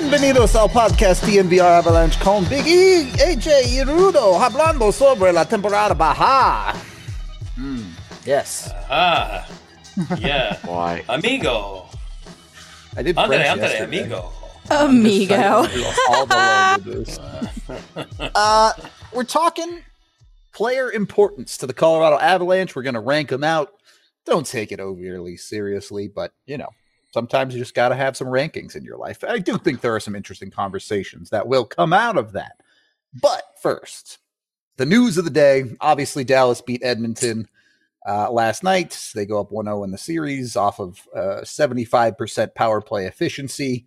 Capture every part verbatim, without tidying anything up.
Bienvenidos al podcast D N V R Avalanche con Big E, A J y Rudo, hablando sobre la temporada baja. Mm, yes. Ah, yeah. Why? Amigo. I did Andre, French Andre, yesterday. amigo. Amigo. All the languages. uh, we're talking player importance to the Colorado Avalanche. We're going to rank them out. Don't take it overly seriously, but, you know, sometimes you just got to have some rankings in your life. I do think there are some interesting conversations that will come out of that. But first, the news of the day. Obviously, Dallas beat Edmonton uh, last night. They go up one oh in the series off of uh, seventy-five percent power play efficiency.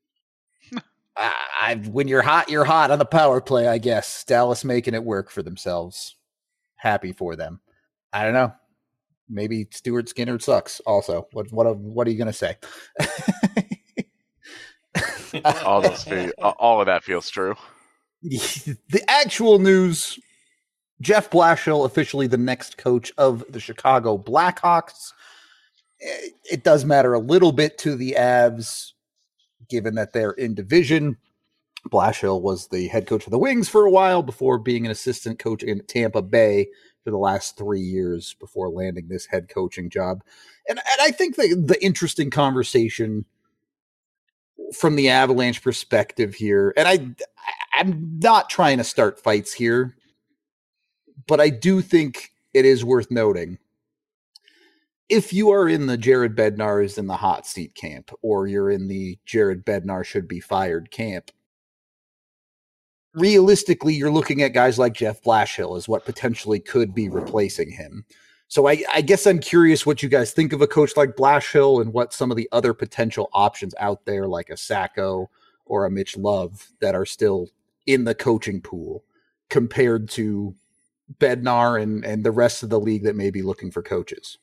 I, when you're hot, you're hot on the power play, I guess. Dallas making it work for themselves. Happy for them. I don't know. Maybe Stuart Skinner sucks also. What what what are you going to say? all those feel, all of that feels true. The actual news, Jeff Blashill officially the next coach of the Chicago Blackhawks. It, it does matter a little bit to the Avs, given that they're in division. Blashill was the head coach of the Wings for a while before being an assistant coach in Tampa Bay for the last three years before landing this head coaching job. And, and I think the, the interesting conversation from the Avalanche perspective here, and I, I'm not trying to start fights here, but I do think it is worth noting. If you are in the Jared Bednar is in the hot seat camp, or you're in the Jared Bednar should be fired camp, realistically, you're looking at guys like Jeff Blashill as what potentially could be replacing him. So I, I guess I'm curious what you guys think of a coach like Blashill and what some of the other potential options out there, like a Sacco or a Mitch Love, that are still in the coaching pool compared to Bednar and, and the rest of the league that may be looking for coaches.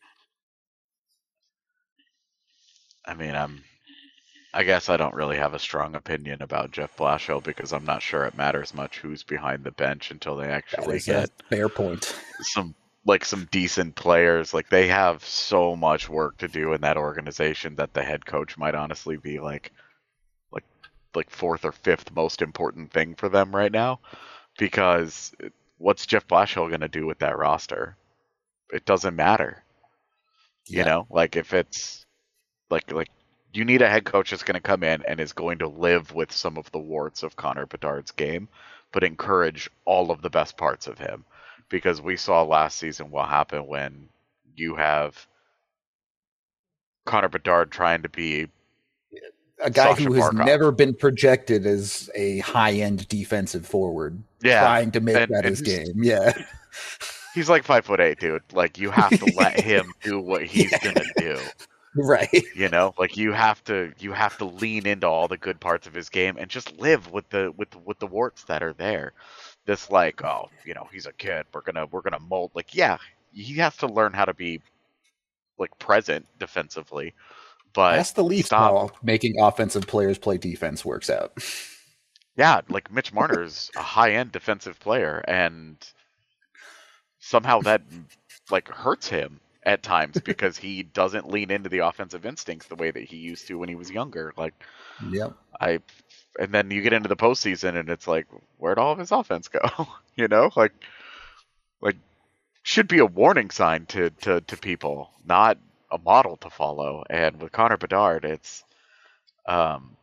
I mean, I'm. I guess I don't really have a strong opinion about Jeff Blashill because I'm not sure it matters much who's behind the bench until they actually get a fair point. Some like some decent players. Like they have so much work to do in that organization that the head coach might honestly be like, like, like fourth or fifth most important thing for them right now. Because what's Jeff Blashill going to do with that roster? It doesn't matter. You Yeah. know, like if it's like like. You need a head coach that's going to come in and is going to live with some of the warts of Connor Bedard's game, but encourage all of the best parts of him. Because we saw last season what happened when you have Connor Bedard trying to be a guy Sasha who has Barkov. never been projected as a high-end defensive forward, Yeah, trying to make and- that and his he's- game. Yeah. He's like five foot eight, dude. Like you have to let him do what he's Yeah. gonna do. Right. You know, like you have to you have to lean into all the good parts of his game and just live with the with with the warts that are there. This like, oh, you know, he's a kid. We're gonna we're gonna mold. Like, yeah, he has to learn how to be like present defensively. But That's the Leafs stop. how making offensive players play defense works out. Yeah, like Mitch Marner's a high end defensive player, and somehow that like hurts him at times because he doesn't lean into the offensive instincts the way that he used to when he was younger. Like, Yep. I, and then you get into the postseason and it's like, where'd all of his offense go? you know, like, like should be a warning sign to, to, to people, not a model to follow. And with Connor Bedard, it's, um,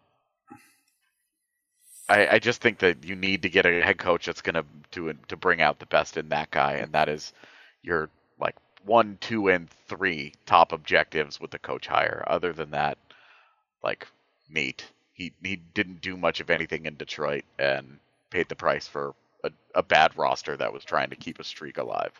I, I just think that you need to get a head coach that's going to to to bring out the best in that guy, and that is your like one, two, and three top objectives with the coach hire. Other than that, like neat. He he didn't do much of anything in Detroit and paid the price for a, a bad roster that was trying to keep a streak alive.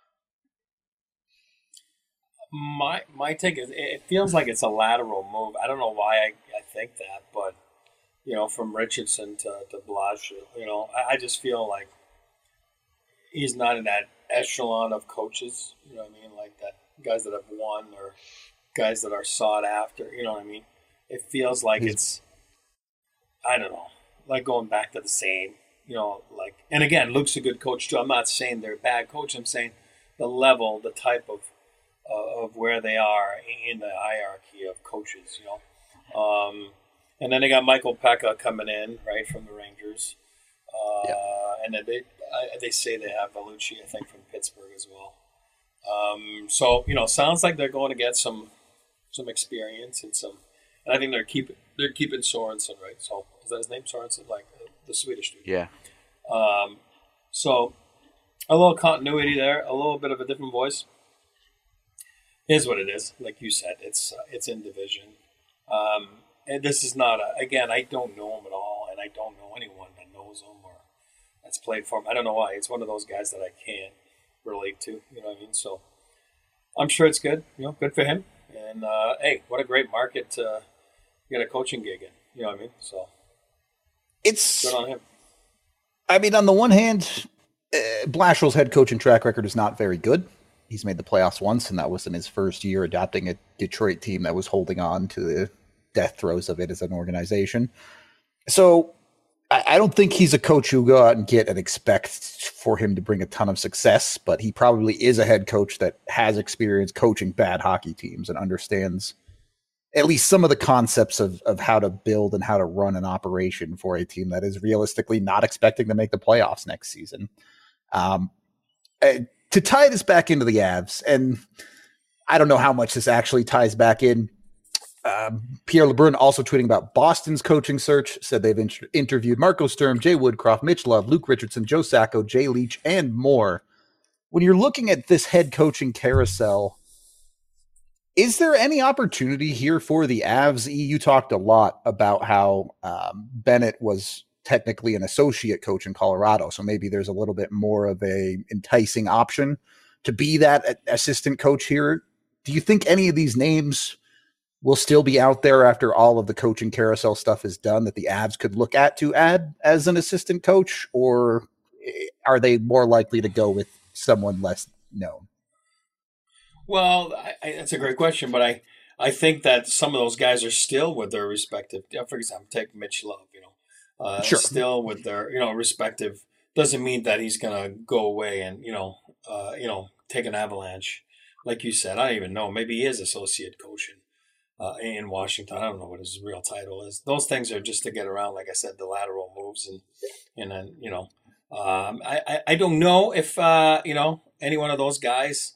My my take is it feels like it's a lateral move. I don't know why I, I think that, but you know, from Richardson to to Blashill, you know, I, I just feel like he's not in that echelon of coaches. You know what I mean? Like that guys that have won or guys that are sought after. You know what I mean? It feels like it's I don't know, like going back to the same. You know, like and again, Luke's a good coach too. I'm not saying they're a bad coach. I'm saying the level, the type of uh, of where they are in the hierarchy of coaches. You know. Um, And then they got Michael Pekka coming in, right, from the Rangers. Uh, Yeah. And then they I, they say they have Vellucci, I think, from Pittsburgh as well. Um, so, you know, sounds like they're going to get some some experience and some. And I think they're keeping they're keeping Sorensen, right? So is that his name, Sorensen? Like uh, the Swedish dude. Yeah. Um, so a little continuity there, a little bit of a different voice. Is what it is. Like you said, it's uh, it's in division. Um, and this is not a. Again, I don't know him at all, and I don't know anyone that knows him or that's played for him. I don't know why. It's one of those guys that I can't relate to. You know what I mean? So I'm sure it's good. You know, good for him. And uh, hey, what a great market to get a coaching gig in. You know what I mean? So It's good on him. I mean, on the one hand, uh, Blashill's head coaching track record is not very good. He's made the playoffs once, and that was in his first year adapting a Detroit team that was holding on to the death throes of it as an organization. So I, I don't think he's a coach who go out and get and expect for him to bring a ton of success, but he probably is a head coach that has experience coaching bad hockey teams and understands at least some of the concepts of, of how to build and how to run an operation for a team that is realistically not expecting to make the playoffs next season. Um, uh, to tie this back into the Avs, and I don't know how much this actually ties back in. Um, Pierre LeBrun also tweeting about Boston's coaching search, said they've in- interviewed Marco Sturm, Jay Woodcroft, Mitch Love, Luke Richardson, Joe Sacco, Jay Leach, and more. When you're looking at this head coaching carousel, is there any opportunity here for the Avs? You talked a lot about how um, Bennett was technically an associate coach in Colorado, so maybe there's a little bit more of a enticing option to be that assistant coach here. Do you think any of these names will still be out there after all of the coaching carousel stuff is done that the Avs could look at to add as an assistant coach, or are they more likely to go with someone less known? Well, I, I, that's a great question, but I, I think that some of those guys are still with their respective. For example, take Mitch Love, you know, uh, Sure. still with their you know respective. Doesn't mean that he's gonna go away and you know, uh, you know, take an avalanche, like you said. I don't even know. Maybe he is associate coaching uh, in Washington. I don't know what his real title is. Those things are just to get around, like I said, the lateral moves and and then you know, um, I, I I don't know if uh, you know any one of those guys.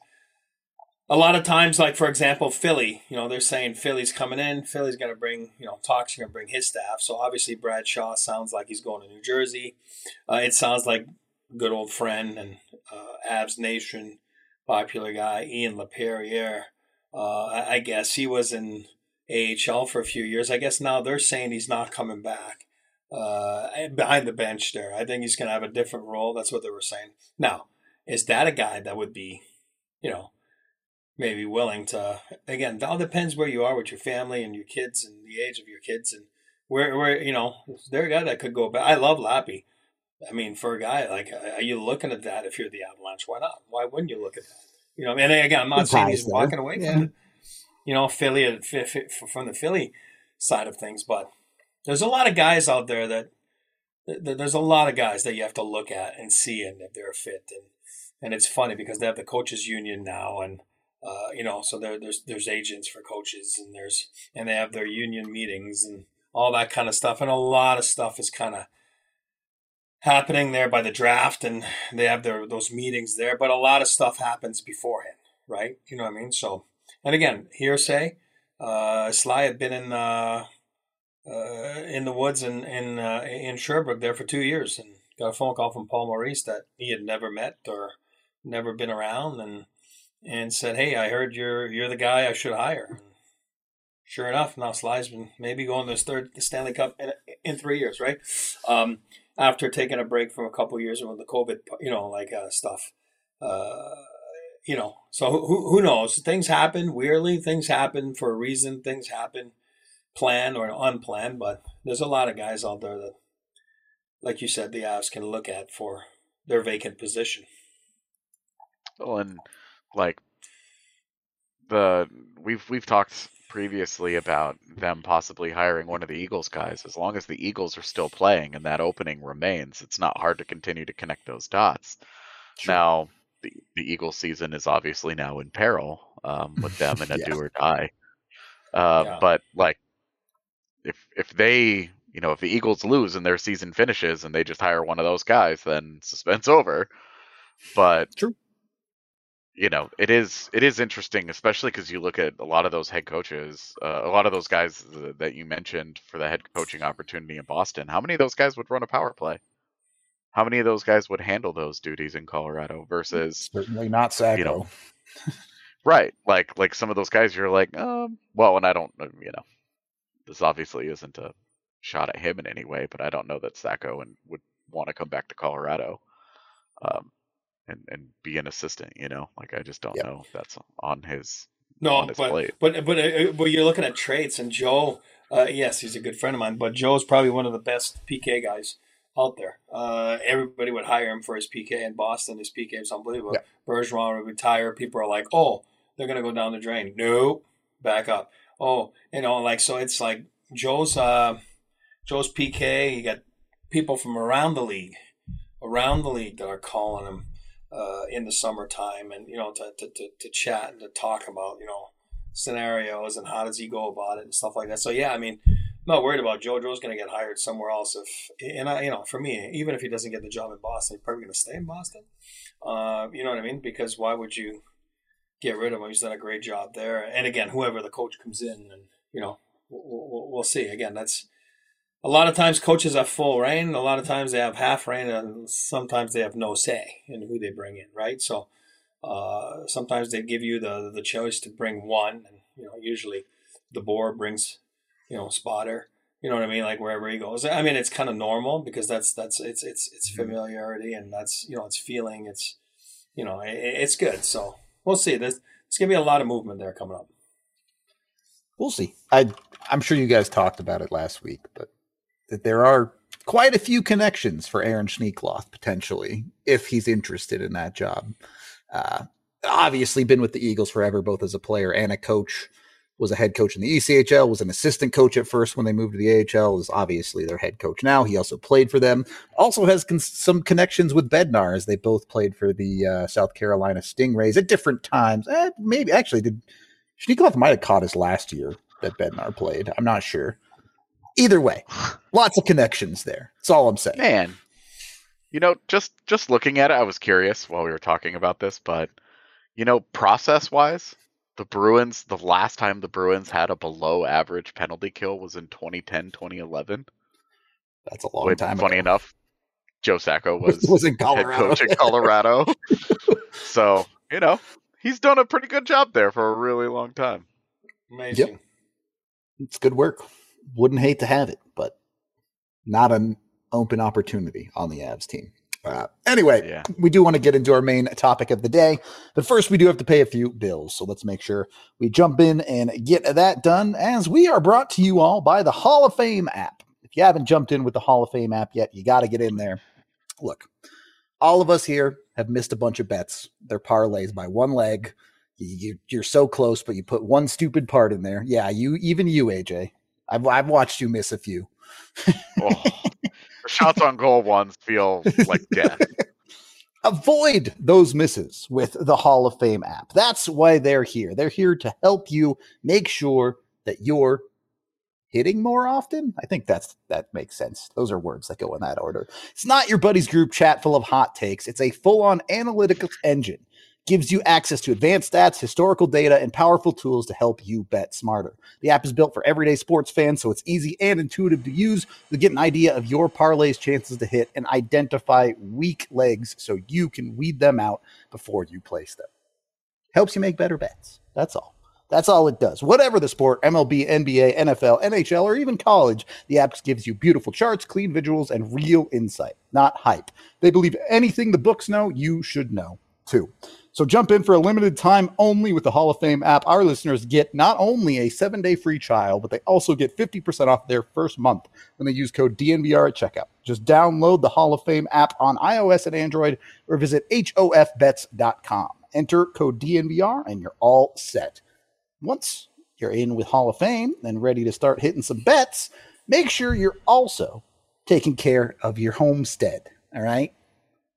A lot of times, like, for example, Philly, you know, they're saying Philly's coming in. Philly's going to bring, you know, Talk's going to bring his staff. So obviously Brad Shaw sounds like he's going to New Jersey. Uh, it sounds like good old friend and uh, Avs Nation, popular guy, Ian LaPerriere. Uh, I, I guess he was in A H L for a few years. I guess now they're saying he's not coming back uh, behind the bench there. I think he's going to have a different role. That's what they were saying. Now, is that a guy that would be, you know, maybe willing to, again, it all depends where you are with your family and your kids and the age of your kids and where, where you know, they're a guy that could go back. I love Lappy. I mean, for a guy, like, are you looking at that if you're the Avalanche? Why not? Why wouldn't you look at that? You know, and again, I'm not The saying he's ties walking there. away Yeah. from the, you know, Philly, from the Philly side of things, but there's a lot of guys out there that, there's a lot of guys that you have to look at and see and if they're a fit. And, and it's funny because they have the coaches union now and, Uh, you know, so there, there's there's agents for coaches, and there's and they have their union meetings and all that kind of stuff, and a lot of stuff is kind of happening there by the draft, and they have their those meetings there. But a lot of stuff happens beforehand, right? You know what I mean? So, and again, hearsay. Uh, Sly had been in uh, uh, in the woods in in uh, in Sherbrooke there for two years, and got a phone call from Paul Maurice that he had never met or never been around, and. And said, "Hey, I heard you're you're the guy I should hire." And sure enough, now Sly's been maybe going to his third Stanley Cup in, in three years, right? Um, after taking a break from a couple of years with the COVID, you know, like uh, stuff, uh, you know. So who who knows? Things happen weirdly. Things happen for a reason. Things happen planned or unplanned. But there's a lot of guys out there that, like you said, the Avs can look at for their vacant position. Well, and like the we've we've talked previously about them possibly hiring one of the Eagles guys. As long as the Eagles are still playing and that opening remains, it's not hard to continue to connect those dots. Sure. Now, the, the Eagles season is obviously now in peril um, with them in a Yeah. do or die. Uh, Yeah. But like if if they, you know, if the Eagles lose and their season finishes and they just hire one of those guys, then suspense over. But True. You know, it is it is interesting, especially because you look at a lot of those head coaches, uh, a lot of those guys that you mentioned for the head coaching opportunity in Boston. How many of those guys would run a power play? How many of those guys would handle those duties in Colorado versus certainly not Sacco? You know, right? Like like some of those guys, you're like, um, well, and I don't, you know, this obviously isn't a shot at him in any way, but I don't know that Sacco and would want to come back to Colorado. Um, And, and be an assistant, you know, like I just don't yep. know if that's on his no, on his but, plate. but but uh, but you're looking at traits, and Joe, uh, yes, he's a good friend of mine, but Joe's probably one of the best P K guys out there. Uh, everybody would hire him for his P K in Boston. His P K is unbelievable. Yep. Bergeron would retire. People are like, oh, they're gonna go down the drain. No, back up. Oh, you know, like so. It's like Joe's uh, Joe's P K. You got people from around the league, around the league that are calling him. Uh, in the summertime, and you know, to, to to to chat and to talk about, you know, scenarios and how does he go about it and stuff like that. So yeah, I mean, I'm not worried about Joe. Joe's going to get hired somewhere else. If and I, you know, for me, even if he doesn't get the job in Boston, he's probably going to stay in Boston. Uh, you know what I mean? Because why would you get rid of him? He's done a great job there. And again, whoever the coach comes in, and you know, we'll, we'll, we'll see. Again, that's. A lot of times coaches have full reign. A lot of times they have half reign, and sometimes they have no say in who they bring in, right? So uh, sometimes they give you the the choice to bring one, and you know, usually the board brings, you know, spotter. You know what I mean? Like wherever he goes. I mean, it's kind of normal because that's that's it's it's it's familiarity, and that's, you know, it's feeling. It's, you know, it, it's good. So we'll see. There's there's gonna be a lot of movement there coming up. We'll see. I I'm sure you guys talked about it last week, but. That there are quite a few connections for Aaron Schneekloth, potentially, if he's interested in that job. Uh, obviously been with the Eagles forever, both as a player and a coach. Was a head coach in the E C H L, was an assistant coach at first when they moved to the A H L, is obviously their head coach now. He also played for them. Also has con- some connections with Bednar, as they both played for the uh, South Carolina Stingrays at different times. Eh, maybe, actually, did Schneekloth might have caught us last year that Bednar played. I'm not sure. Either way, lots of connections there. That's all I'm saying. Man, you know, just just looking at it, I was curious while we were talking about this, but, you know, process-wise, the Bruins, the last time the Bruins had a below-average penalty kill was in twenty ten, twenty eleven. That's a long Wait, time funny ago. enough, Joe Sacco was, was in Colorado. head coach in Colorado. So, you know, he's done a pretty good job there for a really long time. Amazing. Yep. It's good work. Wouldn't hate to have it, but not an open opportunity on the Avs team. Uh, anyway, yeah. we do want to get into our main topic of the day, but first we do have to pay a few bills. So let's make sure we jump in and get that done, as we are brought to you all by the Hall of Fame app. If you haven't jumped in with the Hall of Fame app yet, you got to get in there. Look, all of us here have missed a bunch of bets. They're parlays by one leg. You, you're so close, but you put one stupid part in there. Yeah, you, even you, A J. I've I've watched you miss a few. Oh, the shots on goal ones feel like death. Avoid those misses with the Hall of Fame app. That's why they're here. They're here to help you make sure that you're hitting more often. I think that's that makes sense. Those are words that go in that order. It's not your buddy's group chat full of hot takes. It's a full-on analytical engine. Gives you access to advanced stats, historical data, and powerful tools to help you bet smarter. The app is built for everyday sports fans, so it's easy and intuitive to use to get an idea of your parlay's chances to hit and identify weak legs so you can weed them out before you place them. Helps you make better bets. That's all. That's all it does. Whatever the sport, M L B, N B A, N F L, N H L, or even college, the app gives you beautiful charts, clean visuals, and real insight, not hype. They believe anything the books know, you should know too. So jump in for a limited time only with the Hall of Fame app. Our listeners get not only a seven-day free trial, but they also get fifty percent off their first month when they use code D N V R at checkout. Just download the Hall of Fame app on iOS and Android or visit H O F bets dot com. Enter code D N V R and you're all set. Once you're in with Hall of Fame and ready to start hitting some bets, make sure you're also taking care of your homestead, all right?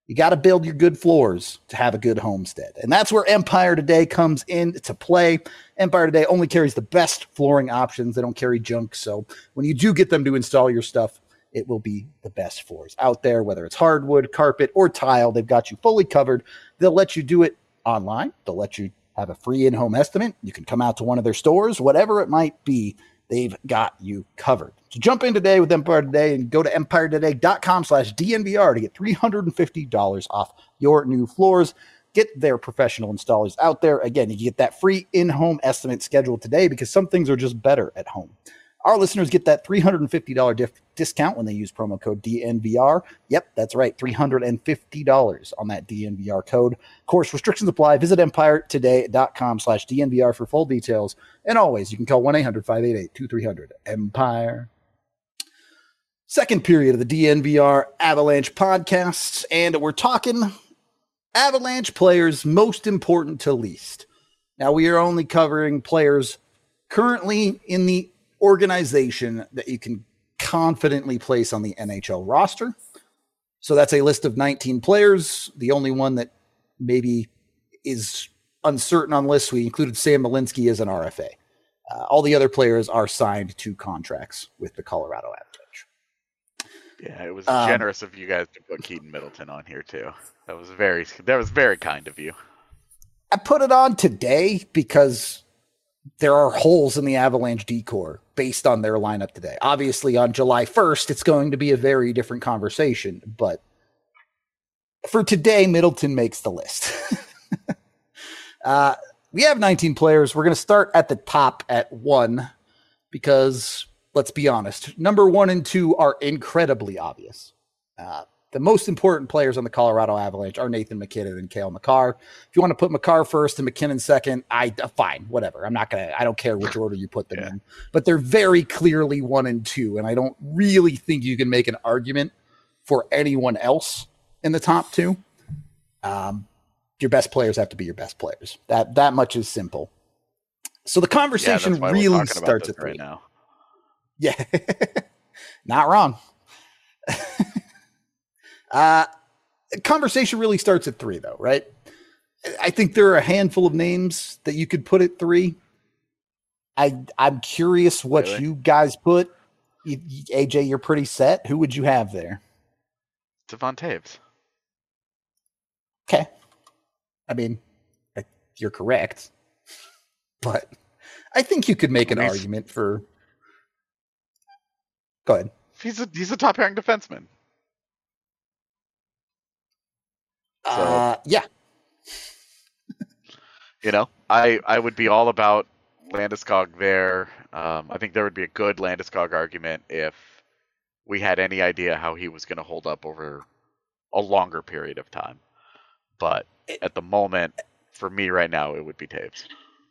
You got to build your good floors to have a good homestead. And that's where Empire Today comes into play. Empire Today only carries the best flooring options. They don't carry junk. So when you do get them to install your stuff, it will be the best floors out there, whether it's hardwood, carpet, or tile. They've got you fully covered. They'll let you do it online. They'll let you have a free in-home estimate. You can come out to one of their stores, whatever it might be. They've got you covered. So jump in today with Empire Today and go to empire today dot com slash D N V R to get three hundred fifty dollars off your new floors. Get their professional installers out there. Again, you can get that free in-home estimate scheduled today because some things are just better at home. Our listeners get that three hundred fifty dollars diff- discount when they use promo code D N V R. Yep, that's right, three hundred fifty dollars on that D N V R code. Of course, restrictions apply. Visit empire today dot com slash D N V R for full details. And always, you can call one eight hundred five eight eight two three zero zero Empire. Second period of the D N V R Avalanche podcasts, and we're talking Avalanche players most important to least. Now, we are only covering players currently in the organization that you can confidently place on the N H L roster. So that's a list of nineteen players. The only one that maybe is uncertain on the list, we included Sam Malinsky as an R F A. Uh, all the other players are signed to contracts with the Colorado Avalanche. Yeah, it was um, generous of you guys to put Keaton Middleton on here too. That was very that was very kind of you. I put it on today because there are holes in the Avalanche decor based on their lineup today. Obviously, on July first, it's going to be a very different conversation, but for today, Middleton makes the list. uh, we have nineteen players. We're going to start at the top at one because, let's be honest, number one and two are incredibly obvious. Uh, The most important players on the Colorado Avalanche are Nathan MacKinnon and Cale Makar. If you want to put Makar first and McKinnon second, I uh, fine, whatever. I'm not gonna. I don't care which order you put them yeah. in. But they're very clearly one and two, and I don't really think you can make an argument for anyone else in the top two. Um, your best players have to be your best players. That that much is simple. So the conversation yeah, really starts at three. Right now. Yeah, not wrong. Uh, conversation really starts at three, though, right? I think there are a handful of names that you could put at three. I, I'm curious what really? you guys put. You, A J, you're pretty set. Who would you have there? Devon Toews. Okay. I mean, you're correct. But I think you could make an he's, argument for... Go ahead. He's a, he's a top-pairing defenseman. So, uh, yeah. You know, I, I would be all about Landeskog there. Um, I think there would be a good Landeskog argument if we had any idea how he was going to hold up over a longer period of time. But at the moment, for me right now, it would be Toews.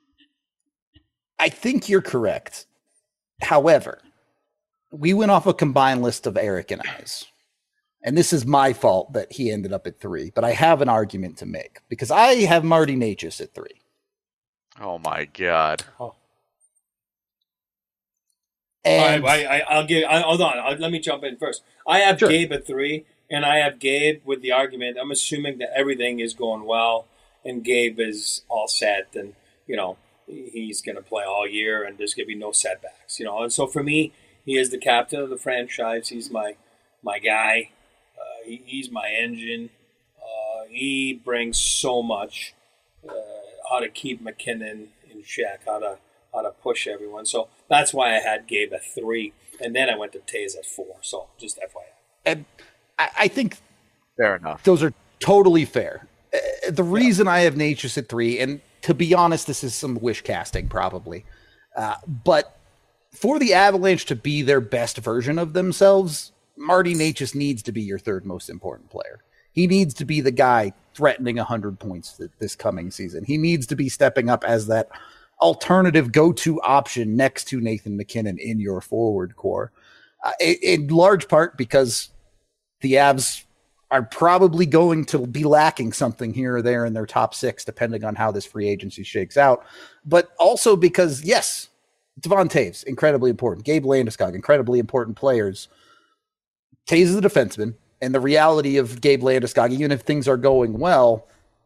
I think you're correct. However, we went off a combined list of Eric and I's. And this is my fault that he ended up at three, but I have an argument to make because I have Marty Necas at three. Oh my God! Oh. And I, I, I'll give. I, hold on. I'll, let me jump in first. I have sure. Gabe at three, and I have Gabe with the argument. I'm assuming that everything is going well, and Gabe is all set, and you know he's going to play all year, and there's going to be no setbacks. You know, and so for me, he is the captain of the franchise. He's my my guy. Uh, he, he's my engine. Uh, he brings so much. Uh, how to keep McKinnon in check. How to how to push everyone. So that's why I had Gabe at three, and then I went to Toews at four. So just F Y I. And I, I think fair enough. Those are totally fair. Uh, the reason yeah. I have Necas at three, and to be honest, this is some wish casting probably, uh, but for the Avalanche to be their best version of themselves, Marty Necas needs to be your third most important player. He needs to be the guy threatening one hundred points th- this coming season. He needs to be stepping up as that alternative go-to option next to Nathan MacKinnon in your forward core. Uh, in, in large part because the Avs are probably going to be lacking something here or there in their top six, depending on how this free agency shakes out. But also because, yes, Devon Toews, incredibly important. Gabe Landeskog, incredibly important players. Toews is a defenseman. And the reality of Gabe Landeskog, even if things are going well,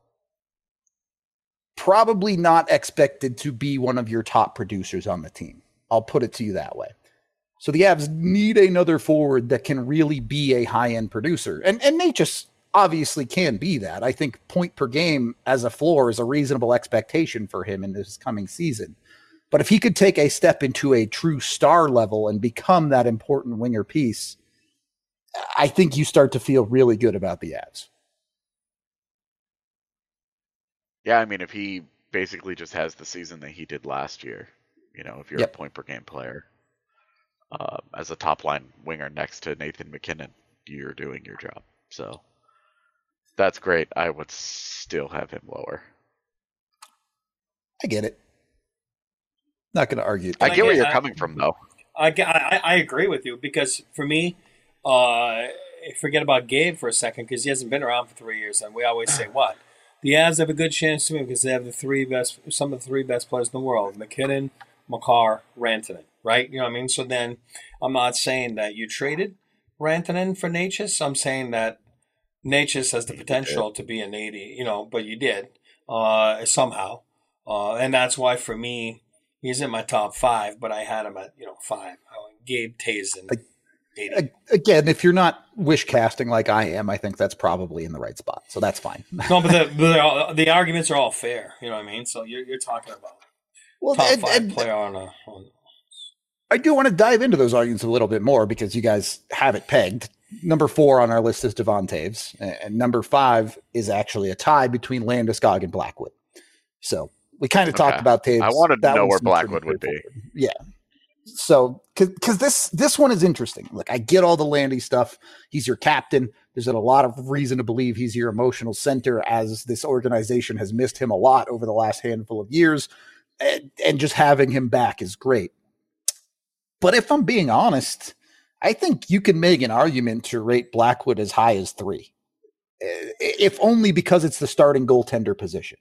probably not expected to be one of your top producers on the team. I'll put it to you that way. So the Avs need another forward that can really be a high-end producer. And, and Necas obviously can be that. I think point per game as a floor is a reasonable expectation for him in this coming season. But if he could take a step into a true star level and become that important winger piece, I think you start to feel really good about the Avs. Yeah, I mean, if he basically just has the season that he did last year, you know, if you're yep. a point per game player, uh, as a top line winger next to Nathan MacKinnon, you're doing your job. So that's great. I would still have him lower. I get it. Not going to argue. I get, I get where you're I, coming from, though. I, I, I agree with you because for me, uh, forget about Gabe for a second because he hasn't been around for three years, and we always say what the Avs have a good chance to win because they have the three best, some of the three best players in the world: MacKinnon, Makar, Rantanen. Right? You know what I mean? So then, I'm not saying that you traded Rantanen for Necas. I'm saying that Necas has the potential to be an eighty. You know, but you did uh, somehow, uh, and that's why for me. He's in my top five, but I had him at, you know, five. Gabe Tazen. eighty. Again, if you're not wish casting like I am, I think that's probably in the right spot. So that's fine. No, but the but all, the arguments are all fair. You know what I mean? So you're you're talking about well, top and, five and, player on a. On... I do want to dive into those arguments a little bit more because you guys have it pegged. Number four on our list is Devon Toews, and number five is actually a tie between Landeskog and Blackwood. So. We kind of okay. talked about Toews. I wanted to know where Blackwood would be. Yeah. So, because this this one is interesting. Look, I get all the Landy stuff. He's your captain. There's a lot of reason to believe he's your emotional center as this organization has missed him a lot over the last handful of years. And, and just having him back is great. But if I'm being honest, I think you can make an argument to rate Blackwood as high as three. If only because it's the starting goaltender position.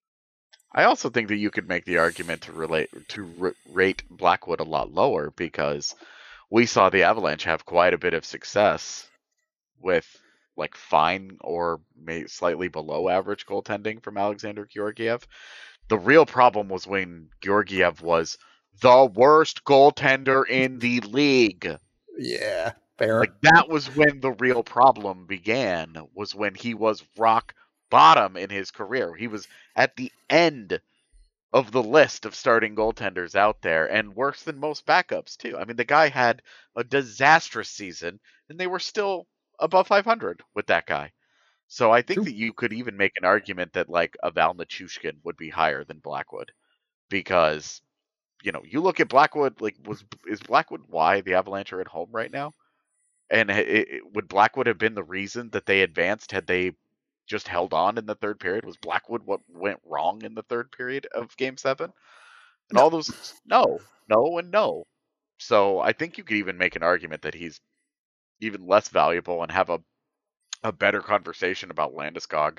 I also think that you could make the argument to relate to r- rate Blackwood a lot lower because we saw the Avalanche have quite a bit of success with like fine or maybe slightly below average goaltending from Alexander Georgiev. The real problem was when Georgiev was the worst goaltender in the league. Yeah, fair. Like that was when the real problem began, was when he was rock bottom in his career. He was at the end of the list of starting goaltenders out there and worse than most backups too. I mean, the guy had a disastrous season and they were still above five hundred with that guy. So I think True. that you could even make an argument that like a Val Nichushkin would be higher than Blackwood because, you know, you look at Blackwood, like was, is Blackwood why the Avalanche are at home right now? And it, it, would Blackwood have been the reason that they advanced had they just held on in the third period? Was Blackwood what went wrong in the third period of game seven? And no. all those, no, no, and no. So I think you could even make an argument that he's even less valuable and have a, a better conversation about Landeskog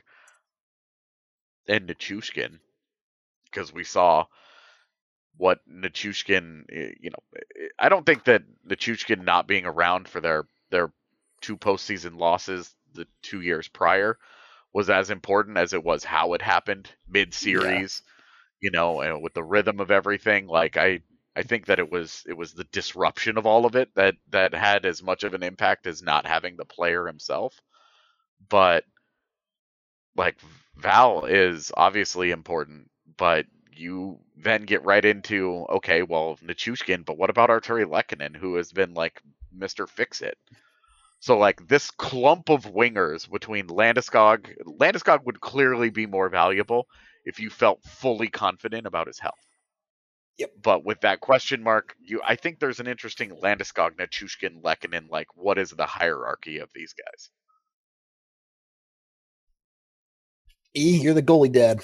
and Nichushkin because we saw what Nichushkin, you know, I don't think that Nichushkin not being around for their, their two postseason losses the two years prior was as important as it was how it happened mid-series, yeah. you know, and with the rhythm of everything. Like I, I think that it was it was the disruption of all of it that that had as much of an impact as not having the player himself. But like Val is obviously important, but you then get right into okay, well, Nichushkin, but what about Arturi Lehkonen, who has been like Mister Fix-It? So, like, this clump of wingers between Landeskog... Landeskog would clearly be more valuable if you felt fully confident about his health. Yep. But with that question mark, you, I think there's an interesting Landeskog, Nichushkin, Lehkonen, like, what is the hierarchy of these guys? E, you're the goalie dad.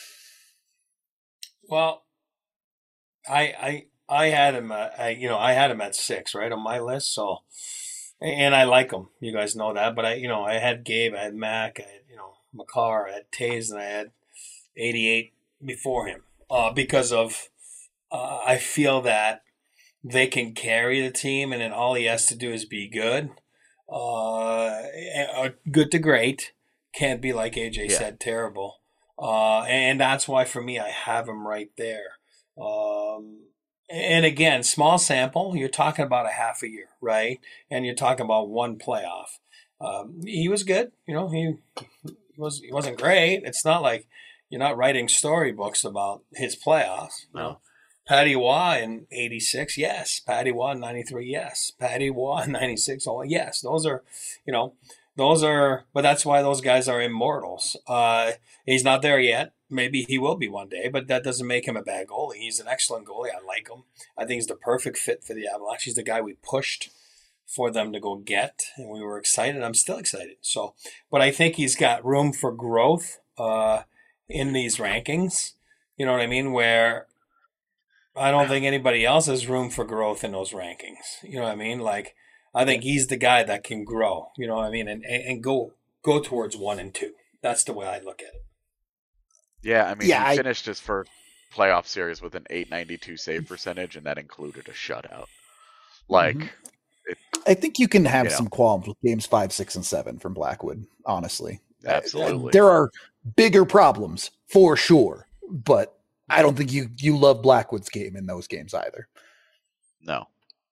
Well, I I I had him, uh, I, you know, I had him at six, right, on my list, so... And I like them. You guys know that. But, I, you know, I had Gabe, I had Mac, I had, you know, Makar, I had Toews, and I had eighty-eight before him. Uh, because of, uh, I feel that they can carry the team, and then all he has to do is be good. Uh, good to great. Can't be, like A J yeah. said, terrible. Uh, and that's why, for me, I have him right there. Um, and again, small sample, you're talking about a half a year, right? And you're talking about one playoff. Um, he was good. You know, he, he, was, he wasn't great. It's not like you're not writing storybooks about his playoffs. No. You know? Patty Waugh in eighty-six, yes. Patty Waugh in ninety-three, yes. Patty Waugh in ninety-six, oh, yes. Those are, you know, those are, but that's why those guys are immortals. Uh, he's not there yet. Maybe he will be one day, but that doesn't make him a bad goalie. He's an excellent goalie. I like him. I think he's the perfect fit for the Avalanche. He's the guy we pushed for them to go get, and we were excited. I'm still excited. So, but I think he's got room for growth uh, in these rankings. You know what I mean? Where I don't think anybody else has room for growth in those rankings. You know what I mean? Like, I think he's the guy that can grow, you know what I mean? And, and, and go go towards one and two. That's the way I look at it. Yeah, I mean, yeah, he I... finished his first playoff series with an eight ninety-two save percentage, and that included a shutout. Like, mm-hmm. it, I think you can have you some know. qualms with games five, six, and seven from Blackwood, honestly. Absolutely. Uh, there are bigger problems, for sure, but I don't think you, you love Blackwood's game in those games either. No.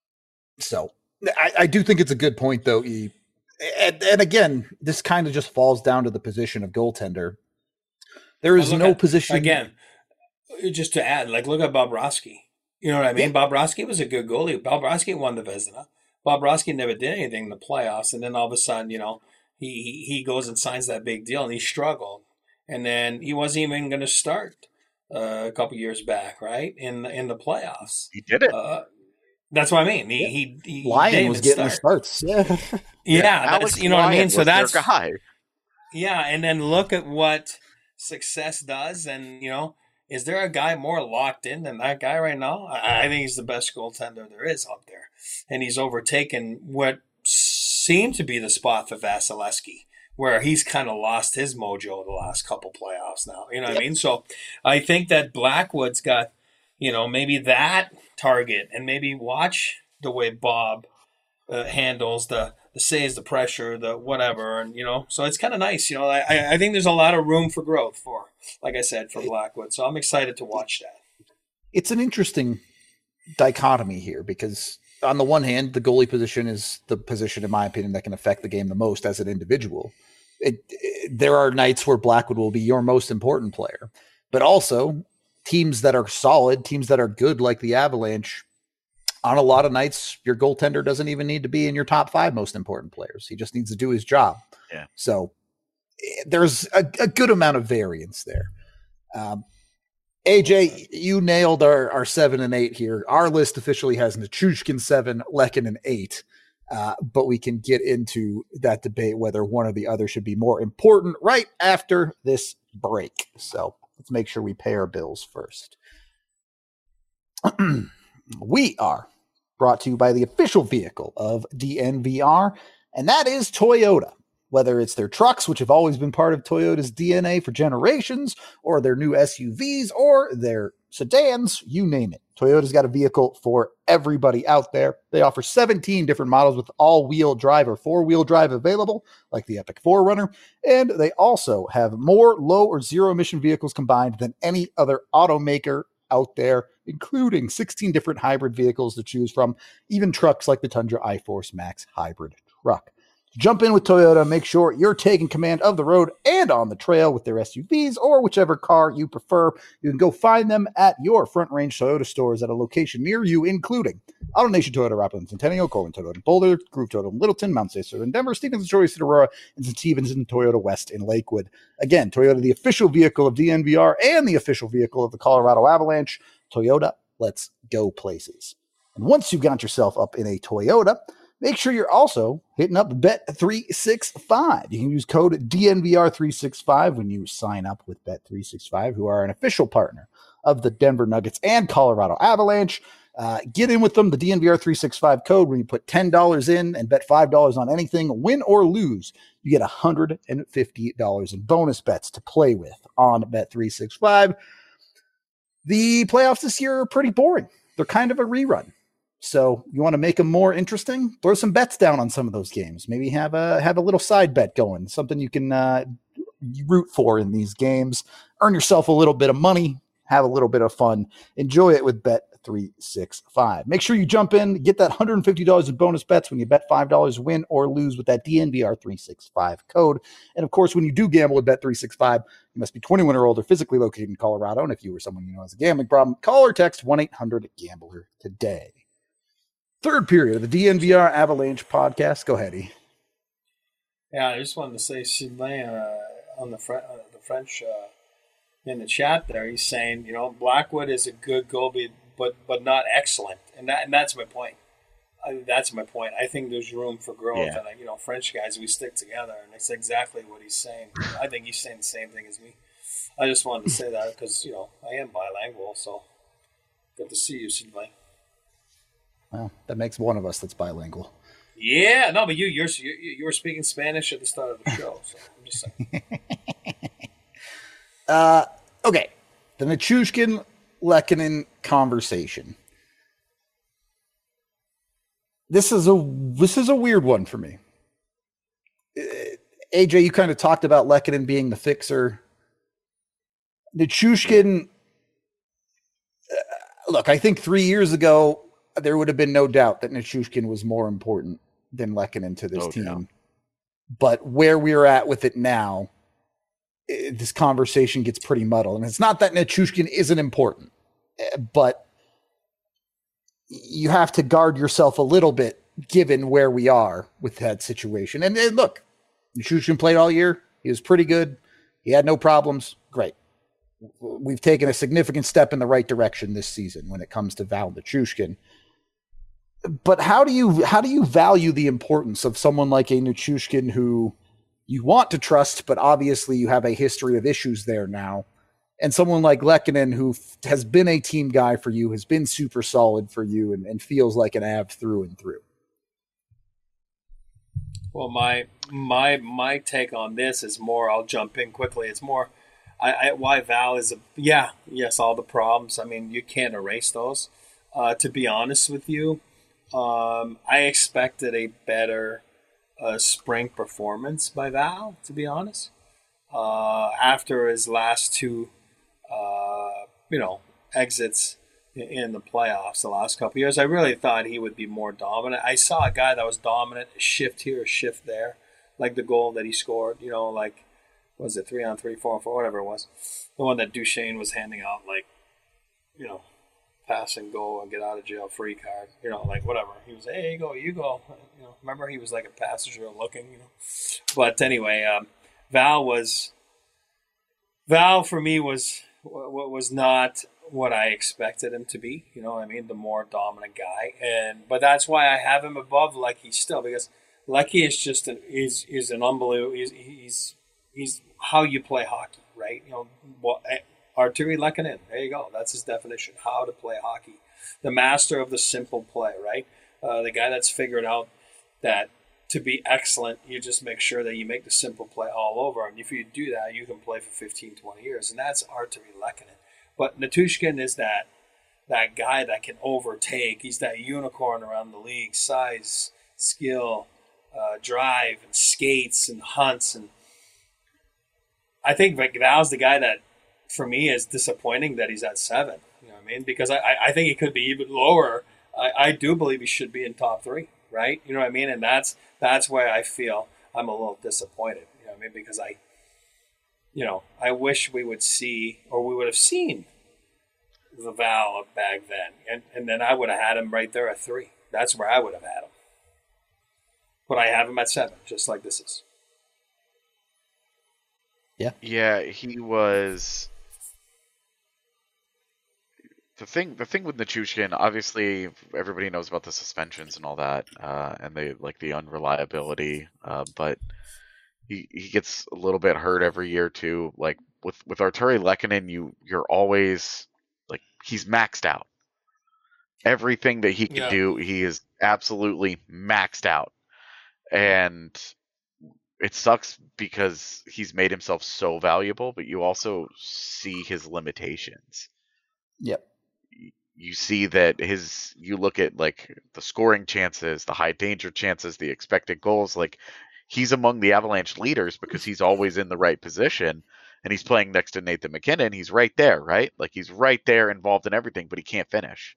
So I, I do think it's a good point, though. E. And, and again, this kind of just falls down to the position of goaltender. There is no at, position. Again, just to add, like, look at Bobrovsky. You know what I mean? Yeah. Bobrovsky was a good goalie. Bobrovsky won the Vezina. Bobrovsky never did anything in the playoffs. And then all of a sudden, you know, he, he goes and signs that big deal, and he struggled. And then he wasn't even going to start uh, a couple years back, right, in, in the playoffs. He did it. Uh, That's what I mean. He, yeah. he, he Lyon was getting start. the starts. Yeah, yeah, yeah that's, you know Lyon what I mean. So that's their guy. Yeah, and then look at what success does, and you know, is there a guy more locked in than that guy right now? I, I think he's the best goaltender there is out there, and he's overtaken what seemed to be the spot for Vasilevsky, where he's kind of lost his mojo the last couple playoffs now. You know what yep. I mean? So I think that Blackwood's got, you know, maybe that target, and maybe watch the way Bob uh, handles the, the saves, the pressure, the whatever, and you know, so it's kind of nice. You know, I I think there's a lot of room for growth for, like I said, for Blackwood. So I'm excited to watch that. It's an interesting dichotomy here because on the one hand, the goalie position is the position, in my opinion, that can affect the game the most as an individual. It, it, there are nights where Blackwood will be your most important player, but also teams that are solid, teams that are good, like the Avalanche, on a lot of nights, your goaltender doesn't even need to be in your top five most important players. He just needs to do his job. Yeah. So there's a, a good amount of variance there. Um, A J, you nailed our, our seven and eight here. Our list officially has Nichushkin seven, Lehkonen eight. Uh, but we can get into that debate whether one or the other should be more important right after this break. So let's make sure we pay our bills first. We are brought to you by the official vehicle of D N V R, and that is Toyota. Whether it's their trucks, which have always been part of Toyota's D N A for generations, or their new S U Vs, or their sedans, you name it. Toyota's got a vehicle for everybody out there. They offer seventeen different models with all-wheel drive or four-wheel drive available, like the Epic four runner, and they also have more low or zero-emission vehicles combined than any other automaker out there, including sixteen different hybrid vehicles to choose from, even trucks like the Tundra iForce Max hybrid truck. Jump in with Toyota, make sure you're taking command of the road and on the trail with their S U Vs or whichever car you prefer. You can go find them at your Front Range Toyota stores at a location near you, including AutoNation Toyota, Rockland, Centennial, Corwin Toyota, Boulder, Groove Toyota, Littleton, Mount Stacer in Denver, Stevens, Choice, Aurora, and Stevenson Toyota West in Lakewood. Again, Toyota, the official vehicle of D N V R and the official vehicle of the Colorado Avalanche. Toyota, let's go places. And once you've got yourself up in a Toyota, make sure you're also hitting up Bet three sixty-five. You can use code D N V R three sixty-five when you sign up with Bet three sixty-five, who are an official partner of the Denver Nuggets and Colorado Avalanche. Uh, get in with them, the D N V R three sixty-five code, when you put ten dollars in and bet five dollars on anything, win or lose, you get one hundred fifty dollars in bonus bets to play with on Bet three sixty-five. The playoffs this year are pretty boring. They're kind of a rerun. So you want to make them more interesting? Throw some bets down on some of those games. Maybe have a have a little side bet going, something you can uh, root for in these games. Earn yourself a little bit of money, have a little bit of fun, enjoy it with Bet three sixty-five. Make sure you jump in, get that one hundred fifty dollars in bonus bets when you bet five dollars, win or lose with that D N V R three sixty-five code. And of course, when you do gamble with Bet three sixty-five, you must be twenty-one or older, physically located in Colorado. And if you or someone you know has a gambling problem, call or text one eight hundred gambler today. Third period of the D N V R Avalanche podcast. Go ahead, E. Yeah, I just wanted to say, Sylvain, uh, on the, Fre- uh, the French uh, in the chat there, he's saying, you know, Blackwood is a good goalie, but but not excellent, and that and that's my point. I, that's my point. I think there's room for growth, Yeah. and uh, you know, French guys, we stick together, and it's exactly what he's saying. I think he's saying the same thing as me. I just wanted to say that because you know I am bilingual, so good to see you, Sylvain. Well, that makes one of us that's bilingual. Yeah, no, but you you're you, you were speaking Spanish at the start of the show, so I'm just saying. uh, okay, the Nichushkin Lehkonen conversation. This is a this is a weird one for me. Uh, A J, you kind of talked about Lehkonen being the fixer. Nichushkin. Uh, look, I think three years ago there would have been no doubt that Nichushkin was more important than Lehkonen to this Oh, team. yeah. But where we're at with it now, eh, this conversation gets pretty muddled. And it's not that Nichushkin isn't important, eh, but you have to guard yourself a little bit given where we are with that situation. And, and look, Nichushkin played all year. He was pretty good. He had no problems. Great. We've taken a significant step in the right direction this season when it comes to Val Nichushkin. But how do you how do you value the importance of someone like a Nichushkin who you want to trust, but obviously you have a history of issues there now, and someone like Lehkonen who f- has been a team guy for you, has been super solid for you, and, and feels like an Av through and through? Well, my my my take on this is more. I'll jump in quickly. It's more. I, I why Val is a yeah yes all the problems. I mean you can't erase those. Uh, to be honest with you, um, I expected a better uh, spring performance by Val. To be honest, uh, after his last two, uh, you know, exits in, in the playoffs the last couple of years, I really thought he would be more dominant. I saw a guy that was dominant, a shift here, a shift there, like the goal that he scored. You know, like. Was it three on three, four on four, whatever it was? The one that Duchesne was handing out, like, you know, pass and go and get out of jail free card, you know, like whatever. He was, hey, you go, you go. You know, remember he was like a passenger looking, you know. But anyway, um, Val was Val for me was what was not what I expected him to be. You know what I mean? The more dominant guy, and but that's why I have him above Lecky still, because Lecky is just an is is an unbelievable. He's he's he's how you play hockey, right? You know, what Artturi Lehkonen. There you go. That's his definition: how to play hockey. The master of the simple play, right? Uh, the guy that's figured out that to be excellent, you just make sure that you make the simple play all over. And if you do that, you can play for fifteen, twenty years. And that's Artturi Lehkonen. But Nichushkin is that that guy that can overtake. He's that unicorn around the league. Size, skill, uh, drive, and skates, and hunts. And I think Val's the guy that, for me, is disappointing that he's at seven. You know what I mean? Because I, I think he could be even lower. I, I do believe he should be in top three, right? You know what I mean? And that's that's where I feel I'm a little disappointed. You know what I mean? Because I, you know, I wish we would see, or we would have seen the Val of back then. And, and then I would have had him right there at three. That's where I would have had him. But I have him at seven, just like this is. Yeah. Yeah, he was. The thing, the thing with Nichushkin, obviously, everybody knows about the suspensions and all that, uh, and they like the unreliability. Uh, but he he gets a little bit hurt every year too. Like with with Artturi Lehkonen, you you're always like he's maxed out. Everything that he can Yeah. do, he is absolutely maxed out, and it sucks because he's made himself so valuable, but you also see his limitations. Yep. you see that his, you look at like the scoring chances, the high danger chances, the expected goals, like he's among the Avalanche leaders because he's always in the right position, and he's playing next to Nathan MacKinnon. He's right there, right? Like he's right there involved in everything, but he can't finish.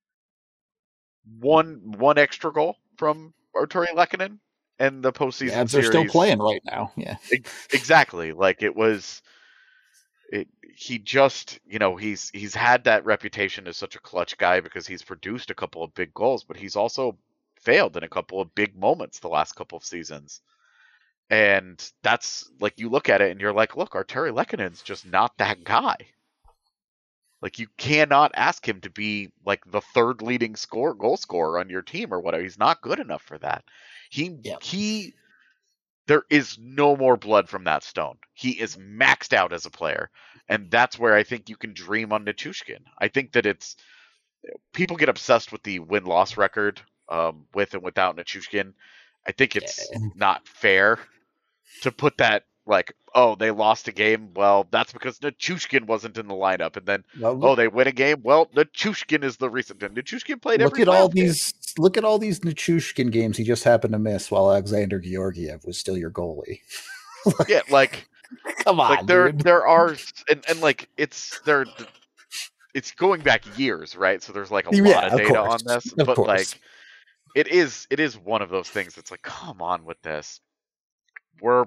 One one extra goal from Artturi Lehkonen and the postseason Yeah, they're series. still playing right now. Yeah, exactly. Like it was, it. He just, you know, he's he's had that reputation as such a clutch guy because he's produced a couple of big goals, but he's also failed in a couple of big moments the last couple of seasons. And that's like, you look at it and you're like, look, Artturi Lehkonen's just not that guy. Like, you cannot ask him to be like the third leading score goal scorer on your team or whatever. He's not good enough for that. He yep. he there is no more blood from that stone. He is maxed out as a player. And that's where I think you can dream on Nichushkin. I think that it's, people get obsessed with the win-loss record um, with and without Nichushkin. I think it's yeah. not fair to put that like, oh, they lost a game. Well, that's because Nichushkin wasn't in the lineup. And then, well, oh, they win a game. Well, Nichushkin is the reason. Nichushkin played look every at all game. these. Look at all these Nichushkin games he just happened to miss while Alexander Georgiev was still your goalie. like, yeah, like come on, like there dude. there are and, and like it's there. It's going back years, right? So there's like a yeah, lot of, of data course. on this, of but course. like it is it is one of those things that's like, come on with this. We're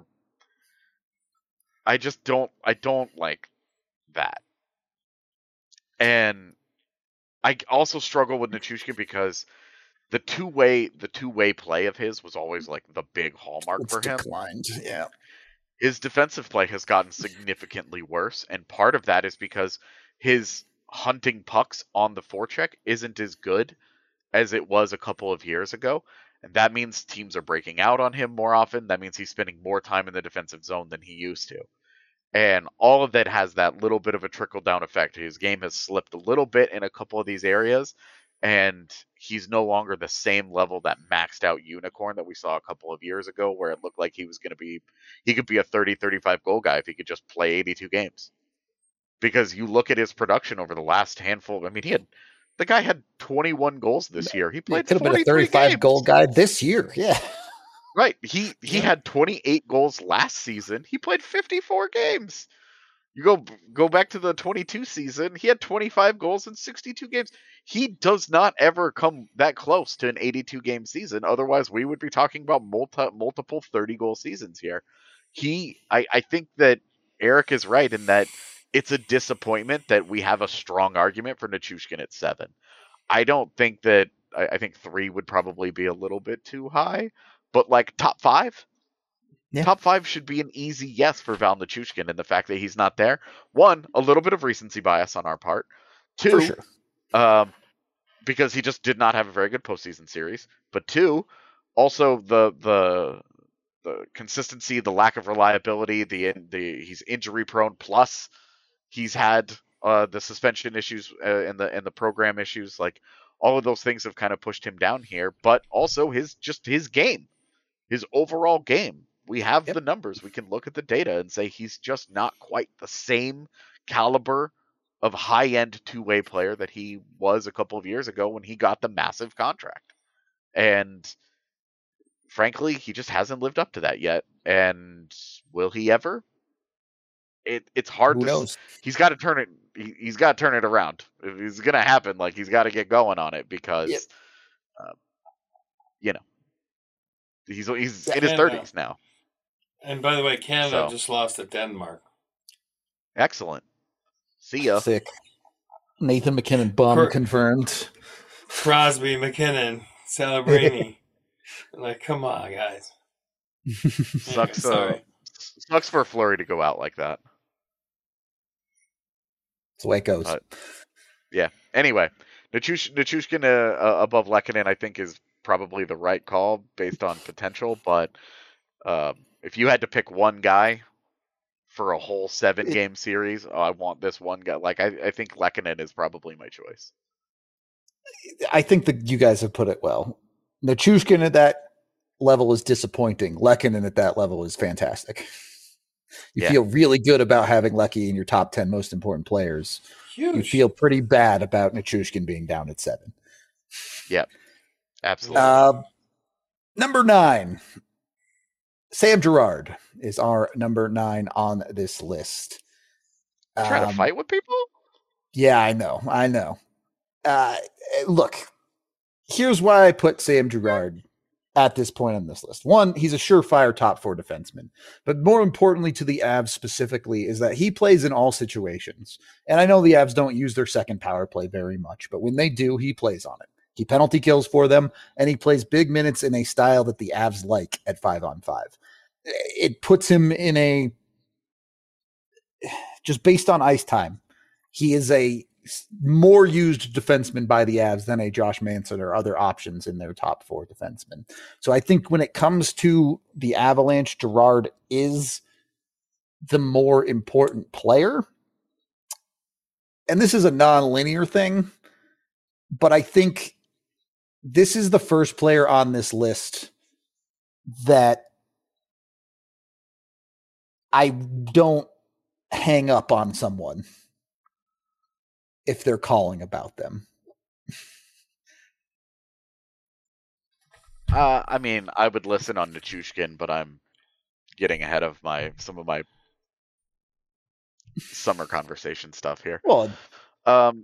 I just don't I don't like that. And I also struggle with Nichushkin because the two-way the two-way play of his was always like the big hallmark it's for him. Declined. Yeah. His defensive play has gotten significantly worse, and part of that is because his hunting pucks on the forecheck isn't as good as it was a couple of years ago. And that means teams are breaking out on him more often. That means he's spending more time in the defensive zone than he used to. And all of that has that little bit of a trickle-down effect. His game has slipped a little bit in a couple of these areas, and he's no longer the same level, that maxed-out unicorn that we saw a couple of years ago, where it looked like he was going to be, he could be a thirty, thirty-five goal guy if he could just play eighty-two games. Because you look at his production over the last handful, I mean, he had, the guy had twenty-one goals this year. He played could have been a thirty-five games. goal guy this year. Yeah. Right. He he yeah. had twenty-eight goals last season. He played fifty-four games. You go go back to the twenty-two season. He had twenty-five goals in sixty-two games. He does not ever come that close to an eighty-two game season. Otherwise, we would be talking about multi, multiple thirty goal seasons here. He, I, I think that Eric is right in that it's a disappointment that we have a strong argument for Nichushkin at seven. I don't think that, I, I think three would probably be a little bit too high. But like top five, yeah. top five should be an easy yes for Val Nichushkin, and the fact that he's not there, one, a little bit of recency bias on our part. Two, for sure. um, because he just did not have a very good postseason series. But two, also the the the consistency, the lack of reliability, the the he's injury prone. Plus, he's had uh, the suspension issues uh, and the and the program issues. Like all of those things have kind of pushed him down here. But also his just his game. His overall game, we have yep. the numbers. We can look at the data and say he's just not quite the same caliber of high-end two-way player that he was a couple of years ago when he got the massive contract. And frankly, he just hasn't lived up to that yet. And will he ever? It it's hard Who to. knows? He's got to turn it. He, he's got to turn it around. If it's gonna happen, like he's got to get going on it because, yep. uh, you know. He's he's in his thirties now. And by the way, Canada so. just lost to Denmark. Excellent. See ya. Sick. Nathan MacKinnon bum Cr- confirmed. Crosby, McKinnon, Celebrini. Like, come on, guys. Sucks. uh, sucks for Fleury to go out like that. That's the way it goes. But, yeah. Anyway, Nichush, Nichushkin uh, uh, above Lehkonen, I think, is probably the right call based on potential, but um, if you had to pick one guy for a whole seven game series, oh, I want this one guy. Like I, I think Lehkonen is probably my choice. I think that you guys have put it well. Nichushkin at that level is disappointing. Lehkonen at that level is fantastic. You yeah. feel really good about having Lecky in your top ten most important players. Huge. you feel pretty bad about Nichushkin being down at seven. Yep, absolutely. Uh, number nine, Sam Girard is our number nine on this list. Trying Um, to fight with people? Yeah, I know. I know. Uh, look, here's why I put Sam Girard at this point on this list. One, he's a surefire top four defenseman. But more importantly to the Avs specifically is that he plays in all situations. And I know the Avs don't use their second power play very much, but when they do, he plays on it. He penalty kills for them, and he plays big minutes in a style that the Avs like at five on five. It puts him in a, just based on ice time, he is a more used defenseman by the Avs than a Josh Manson or other options in their top four defensemen. So I think when it comes to the Avalanche, Girard is the more important player. And this is a non-linear thing, but I think this is the first player on this list that I don't hang up on someone if they're calling about them. Uh, I mean, I would listen on Nichushkin, but I'm getting ahead of my some of my summer conversation stuff here. Well, um,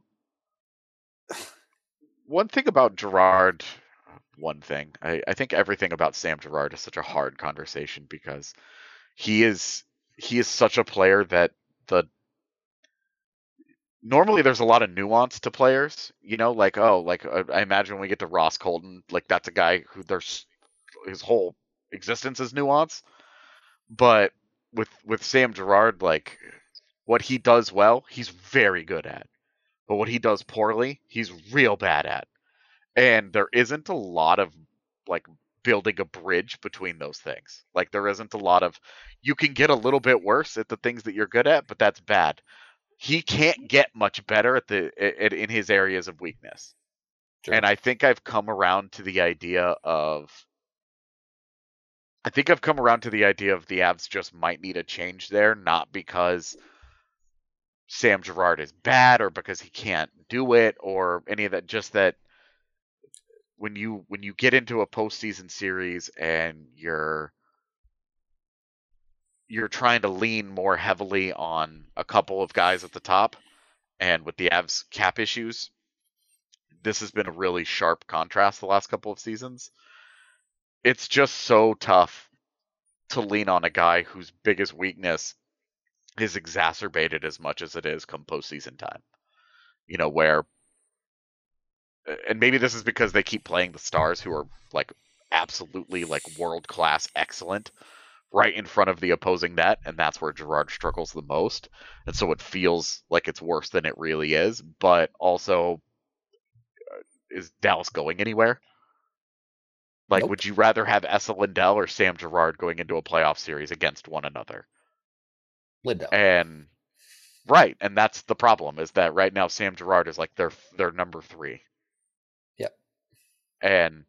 one thing about Girard, one thing, I, I think everything about Sam Girard is such a hard conversation because he is he is such a player that the normally there's a lot of nuance to players, you know, like, oh, like I imagine when we get to Ross Colton, like that's a guy who there's his whole existence is nuance. But with with Sam Girard, like what he does well, he's very good at. But what he does poorly, he's real bad at. And there isn't a lot of like building a bridge between those things. Like there isn't a lot of, you can get a little bit worse at the things that you're good at, but that's bad. He can't get much better at the at, in his areas of weakness. Sure. And I think I've come around to the idea of I think I've come around to the idea of the Avs just might need a change there, not because Sam Girard is bad or because he can't do it or any of that, just that when you when you get into a postseason series and you're you're trying to lean more heavily on a couple of guys at the top, and with the Avs cap issues, this has been a really sharp contrast the last couple of seasons. It's just so tough to lean on a guy whose biggest weakness is exacerbated as much as it is come postseason time. You know, where, and maybe this is because they keep playing the Stars, who are like absolutely like world-class excellent, right in front of the opposing net, and that's where Girard struggles the most. And so it feels like it's worse than it really is, but also, uh, is Dallas going anywhere? Like, nope. Would you rather have Esa Lindell or Sam Girard going into a playoff series against one another? Lindell. And, right, and that's the problem, is that right now Sam Girard is like their, their number three. Yep. And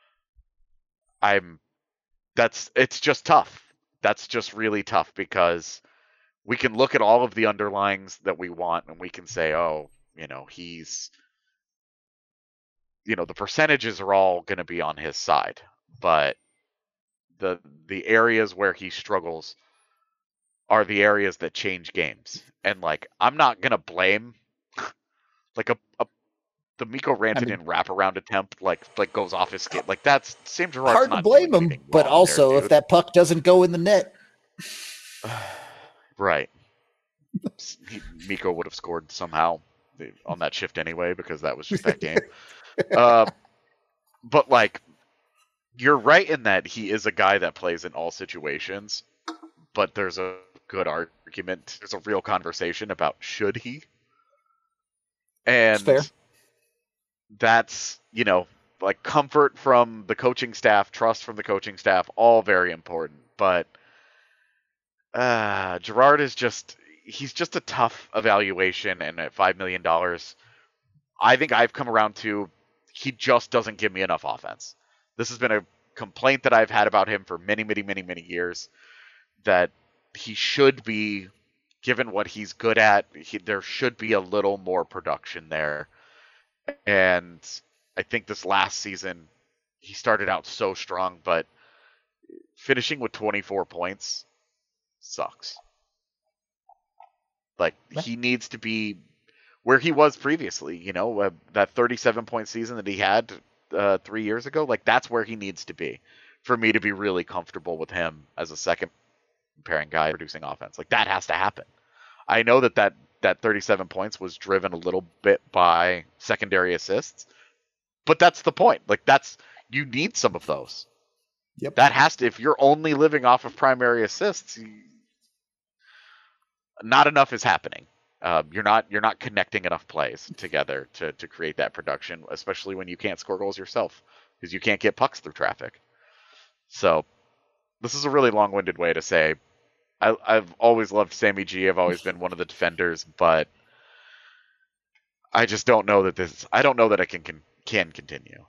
I'm, that's, it's just tough. That's just really tough because we can look at all of the underlyings that we want and we can say, oh, you know, he's, you know, the percentages are all going to be on his side, but the the areas where he struggles are the areas that change games. And like, I'm not going to blame like a, a the Mikko Rantanen I mean, wraparound attempt, like like goes off his skate. Like that's Sam Girard's hard not to blame him, but also there, if that puck doesn't go in the net, right? He, Mikko would have scored somehow on that shift anyway because that was just that game. uh, but like, you're right in that he is a guy that plays in all situations. But there's a good argument. There's a real conversation about should he, and that's, that's you know like comfort from the coaching staff, trust from the coaching staff, all very important. But uh, Girard is just he's just a tough evaluation, and at five million dollars, I think I've come around to he just doesn't give me enough offense. This has been a complaint that I've had about him for many, many, many, many years, that he should be given what he's good at, he, there should be a little more production there. And I think this last season, he started out so strong, but finishing with twenty-four points sucks. Like, he needs to be where he was previously, you know, uh, that thirty-seven point season that he had uh, three years ago. Like, that's where he needs to be for me to be really comfortable with him as a second pairing guy producing offense. Like, that has to happen. I know that that, that thirty-seven points was driven a little bit by secondary assists, but that's the point. Like, that's, you need some of those. Yep. That has to, if you're only living off of primary assists, you, not enough is happening. Um, you're not you're not connecting enough plays together to, to create that production, especially when you can't score goals yourself because you can't get pucks through traffic. So this is a really long-winded way to say I, I've always loved Sammy G. I've always been one of the defenders, but I just don't know that this. I don't know that I can can, can continue.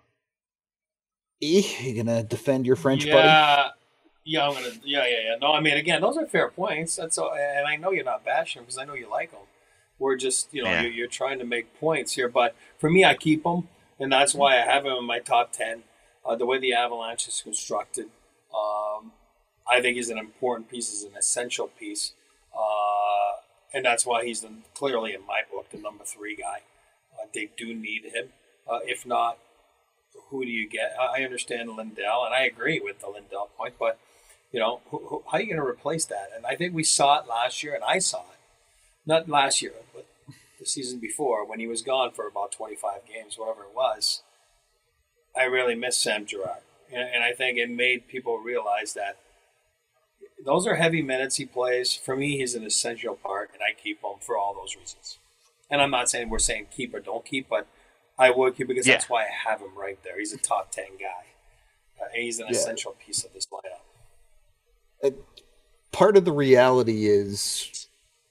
E, you gonna defend your French yeah. buddy? Yeah, I'm gonna. Yeah, yeah, yeah. No, I mean, again, those are fair points. That's all, and I know you're not bashing because I know you like them. We're just, you know, Yeah. you're, you're trying to make points here. But for me, I keep them, and that's why I have him in my top ten. Uh, the way the Avalanche is constructed, um, I think he's an important piece, is an essential piece, uh, and that's why he's the, clearly in my book the number three guy. Uh, they do need him. Uh, if not, who do you get? I understand Lindell, and I agree with the Lindell point, but you know, who, who, how are you going to replace that? And I think we saw it last year, and I saw it. Not last year, but the season before, when he was gone for about twenty-five games, whatever it was. I really miss Sam Girard. And, and I think it made people realize that those are heavy minutes he plays. For me, he's an essential part, and I keep him for all those reasons. And I'm not saying we're saying keep or don't keep, but I would keep because Yeah. that's why I have him right there. He's a top ten guy. Uh, and he's an Yeah. essential piece of this lineup. Uh, part of the reality is,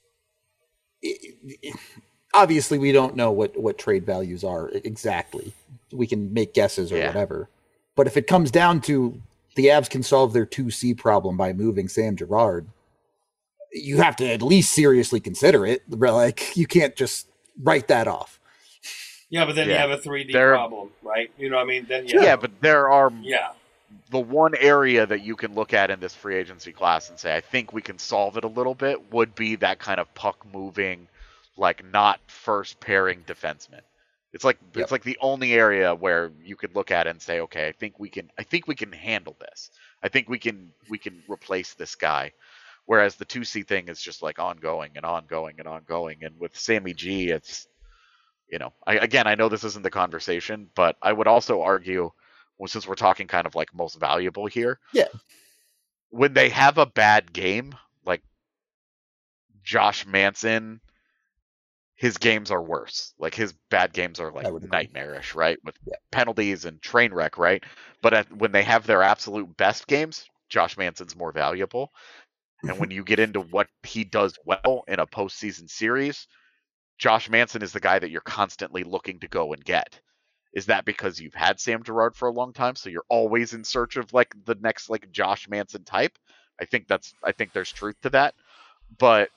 it, it, obviously, we don't know what, what trade values are exactly. We can make guesses or Yeah. whatever. But if it comes down to the Avs can solve their two C problem by moving Sam Girard, you have to at least seriously consider it. Like, you can't just write that off. Yeah, but then Yeah. you have a three D There- problem, right? You know what I mean? Then Yeah, but there are yeah. the one area that you can look at in this free agency class and say, I think we can solve it a little bit, would be that kind of puck moving, like not first pairing defenseman. It's like Yep. it's like the only area where you could look at it and say, okay, I think we can I think we can handle this. I think we can we can replace this guy. Whereas the two C thing is just like ongoing and ongoing and ongoing. And with Sammy G, it's, you know, I, again, I know this isn't the conversation, but I would also argue, well, since we're talking kind of like most valuable here, Yeah. when they have a bad game, like Josh Manson, his games are worse. Like his bad games are like I would agree. nightmarish, right? With Yeah. penalties and train wreck, right? But at, when they have their absolute best games, Josh Manson's more valuable. And when you get into what he does well in a postseason series, Josh Manson is the guy that you're constantly looking to go and get. Is that because you've had Sam Girard for a long time, so you're always in search of like the next like Josh Manson type? I think that's I think there's truth to that. But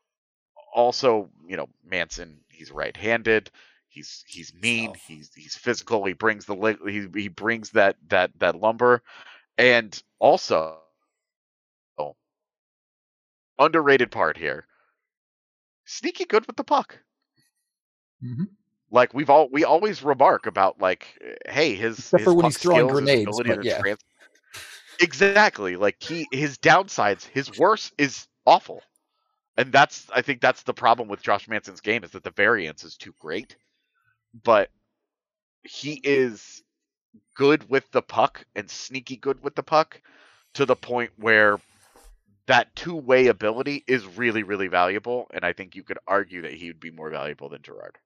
also, you know, Manson, he's right-handed. He's he's mean. So- He's he's physical. He brings the li- he he brings that that that lumber, and also oh, underrated part here. Sneaky good with the puck. Mm-hmm. Like we've all we always remark about like, hey, his Except his for when puck he's throwing skills, his grenades, ability but to yeah. trans- exactly. Like he his downsides, his worst is awful, and that's I think that's the problem with Josh Manson's game is that the variance is too great, but he is good with the puck and sneaky good with the puck to the point where that two-way ability is really, really valuable, and I think you could argue that he would be more valuable than Girard.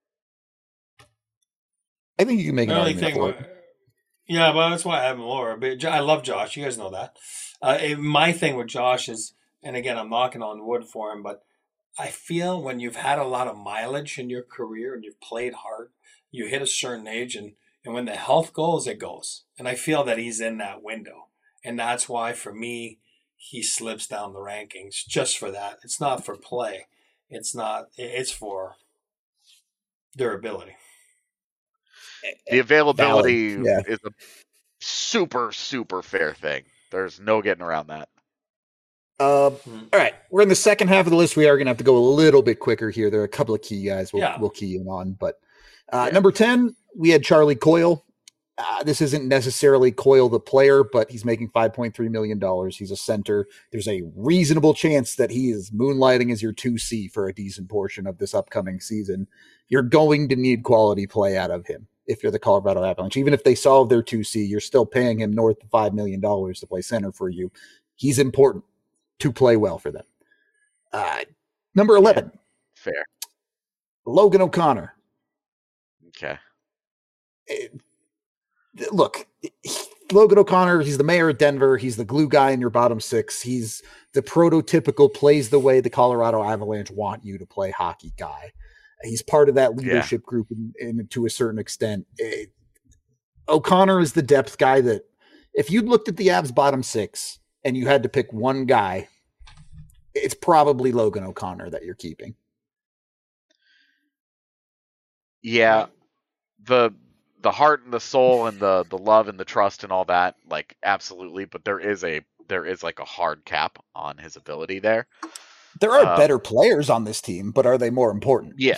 I think you can make an The only argument thing, for with- it. yeah, but that's why I have him lower. But Jo- I love Josh. You guys know that. Uh, eh, my thing with Josh is, and again, I'm knocking on wood for him, but I feel when you've had a lot of mileage in your career and you've played hard, you hit a certain age, and, and when the health goes, it goes. And I feel that he's in that window. And that's why, for me, he slips down the rankings just for that. It's not for play. It's not. It's for durability. The availability Valid. Yeah. is a super, super fair thing. There's no getting around that. Uh, Hmm. all right, we're in the second half of the list. We are going to have to go a little bit quicker here. There are a couple of key guys we'll, Yeah. we'll key in on. But uh, Yeah. number ten, we had Charlie Coyle. Uh, this isn't necessarily Coyle the player, but he's making five point three million dollars. He's a center. There's a reasonable chance that he is moonlighting as your two C for a decent portion of this upcoming season. You're going to need quality play out of him if you're the Colorado Avalanche. Even if they solve their two C, you're still paying him north of five million dollars to play center for you. He's important to play well for them. Uh, number eleven, Yeah. Fair. Logan O'Connor. Okay. It, look, Logan O'Connor, he's the mayor of Denver. He's the glue guy in your bottom six. He's the prototypical plays the way the Colorado Avalanche want you to play hockey guy. He's part of that leadership yeah. group in, in, to a certain extent. It, O'Connor is the depth guy that if you looked at the Avs bottom six and you had to pick one guy, it's probably Logan O'Connor that you're keeping. Yeah. The the heart and the soul and the the love and the trust and all that, like absolutely, but there is a there is like a hard cap on his ability there. There are um, better players on this team, but are they more important? Yeah.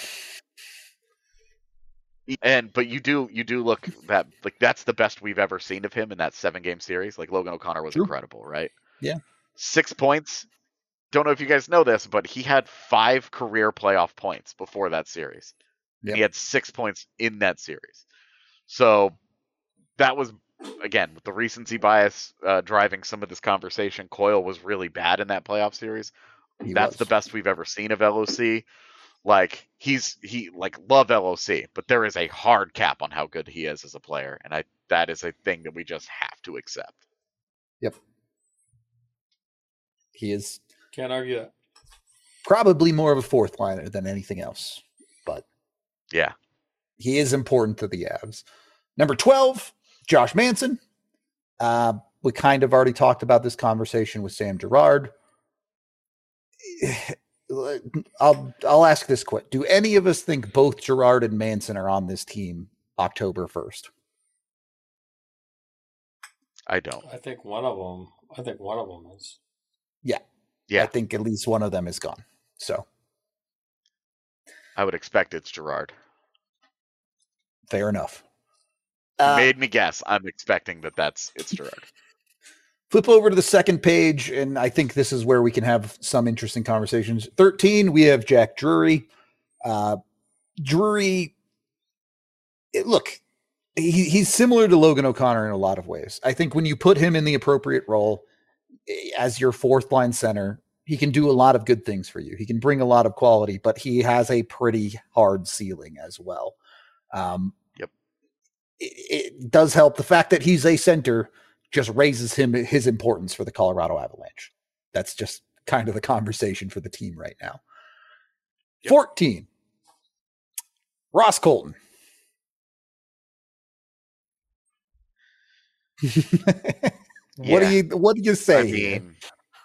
And but you do you do look that like that's the best we've ever seen of him in that seven game series. Like Logan O'Connor was True. incredible, right? Yeah. Six points. Don't know if you guys know this, but he had five career playoff points before that series. Yep. And he had six points in that series. So that was, again, with the recency bias uh, driving some of this conversation, Coyle was really bad in that playoff series. He That's was. the best we've ever seen of L O C. Like, he's, he, like, love L O C, but there is a hard cap on how good he is as a player. And I, that is a thing that we just have to accept. Yep. He is. Can't argue that. Probably more of a fourth liner than anything else, but yeah, he is important to the Avs. Number twelve, Josh Manson. Uh, we kind of already talked about this conversation with Sam Girard. I'll I'll ask this quick: do any of us think both Girard and Manson are on this team October first? I don't. I think one of them. I think one of them is. Yeah. Yeah. I think at least one of them is gone. So I would expect it's Girard. Fair enough. You Uh, made me guess. I'm expecting that that's it's Girard. Flip over to the second page, and I think this is where we can have some interesting conversations. thirteen, we have Jack Drury. Uh, Drury, it, look, he, he's similar to Logan O'Connor in a lot of ways. I think when you put him in the appropriate role as your fourth line center, he can do a lot of good things for you. He can bring a lot of quality, but he has a pretty hard ceiling as well. Um, yep. It, it does help. The fact that he's a center just raises him his importance for the Colorado Avalanche. That's just kind of the conversation for the team right now. Yep. fourteen. Ross Colton. What Yeah. do you what do you say? I mean,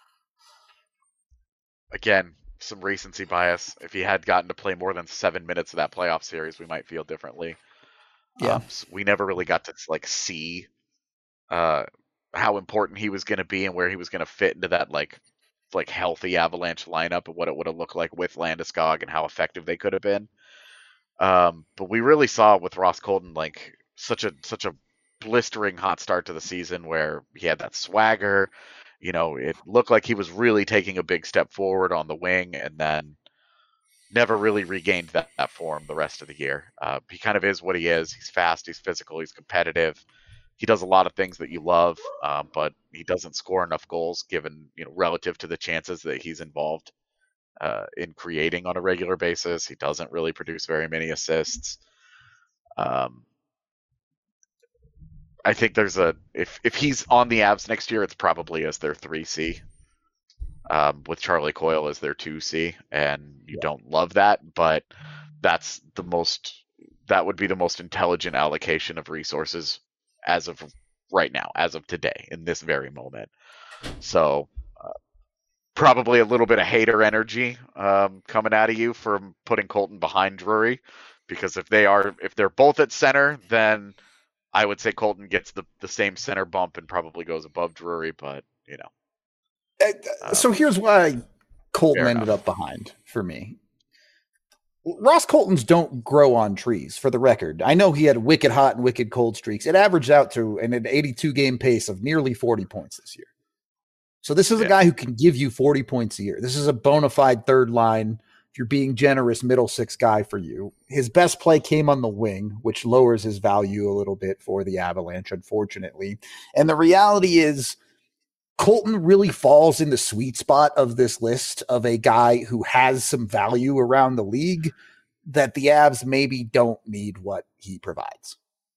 again, some recency bias. If he had gotten to play more than seven minutes of that playoff series, we might feel differently. Yeah, um, so we never really got to like see uh, how important he was going to be and where he was going to fit into that like like healthy Avalanche lineup and what it would have looked like with Landeskog and how effective they could have been. Um, but we really saw with Ross Colton like such a such a blistering hot start to the season where he had that swagger. You know, it looked like he was really taking a big step forward on the wing, and then never really regained that, that form the rest of the year. Uh, he kind of is what he is. He's fast, he's physical, he's competitive. He does a lot of things that you love, uh, but he doesn't score enough goals given, you know, relative to the chances that he's involved uh, in creating on a regular basis. He doesn't really produce very many assists. Um, I think there's a if if he's on the Avs next year, it's probably as their three C, um, with Charlie Coyle as their two C, and you yeah. don't love that, but that's the most that would be the most intelligent allocation of resources as of right now, as of today, in this very moment. So uh, probably a little bit of hater energy um, coming out of you from putting Colton behind Drury, because if they are if they're both at center, then I would say Colton gets the, the same center bump and probably goes above Drury, but you know. Uh, so um, here's why Colton ended enough. up behind for me. Ross Colton's don't grow on trees, for the record. I know he had wicked hot and wicked cold streaks. It averaged out to an eighty-two game pace of nearly forty points this year. So this is yeah. a guy who can give you forty points a year. This is a bona fide third line, if you're being generous, middle six guy for you. His best play came on the wing, which lowers his value a little bit for the Avalanche, unfortunately. And the reality is, Colton really falls in the sweet spot of this list of a guy who has some value around the league that the Avs maybe don't need what he provides.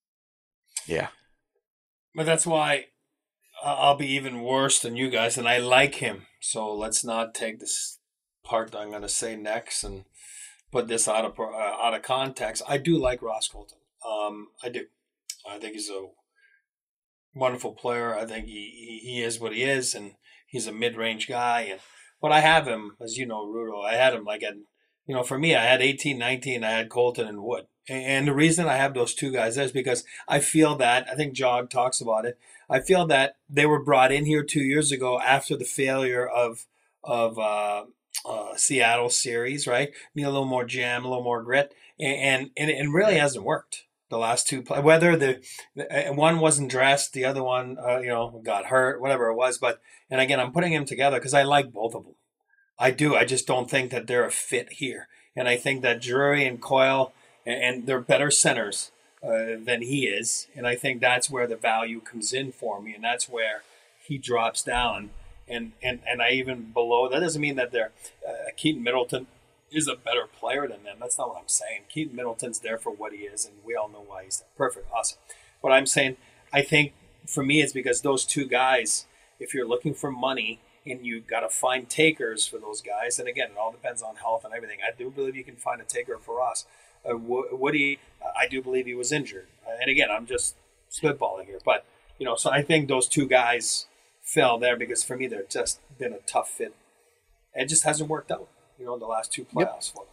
Yeah. But that's why I'll be even worse than you guys, and I like him. So let's not take this part that I'm going to say next and put this out of uh, out of context. I do like Ross Colton. Um, I do. I think he's a wonderful player. I think he, he, he is what he is, and he's a mid-range guy. And but I have him, as you know, Rudo, I had him like at, you know, for me, I had eighteen, nineteen, I had Colton and Wood. And, and the reason I have those two guys is because I feel that, I think Jog talks about it, I feel that they were brought in here two years ago after the failure of of uh, uh, Seattle series, right? Need a little more jam, a little more grit, and and, and it really hasn't worked. The last two play, whether the, the one wasn't dressed, the other one, uh, you know, got hurt, whatever it was. But and again, I'm putting them together because I like both of them. I do. I just don't think that they're a fit here, and I think that Drury and Coyle and, and they're better centers uh, than he is, and I think that's where the value comes in for me, and that's where he drops down. And and and I even below that doesn't mean that they're uh, Keaton Middleton is a better player than them. That's not what I'm saying. Keaton Middleton's there for what he is, and we all know why he's there. Perfect. Awesome. What I'm saying, I think for me, it's because those two guys, if you're looking for money and you got to find takers for those guys, and again, it all depends on health and everything. I do believe you can find a taker for us. Uh, Woody, I do believe he was injured. Uh, and again, I'm just spitballing here. But, you know, so I think those two guys fell there because for me, they're just been a tough fit. It just hasn't worked out. You know, the last two playoffs yep. for them.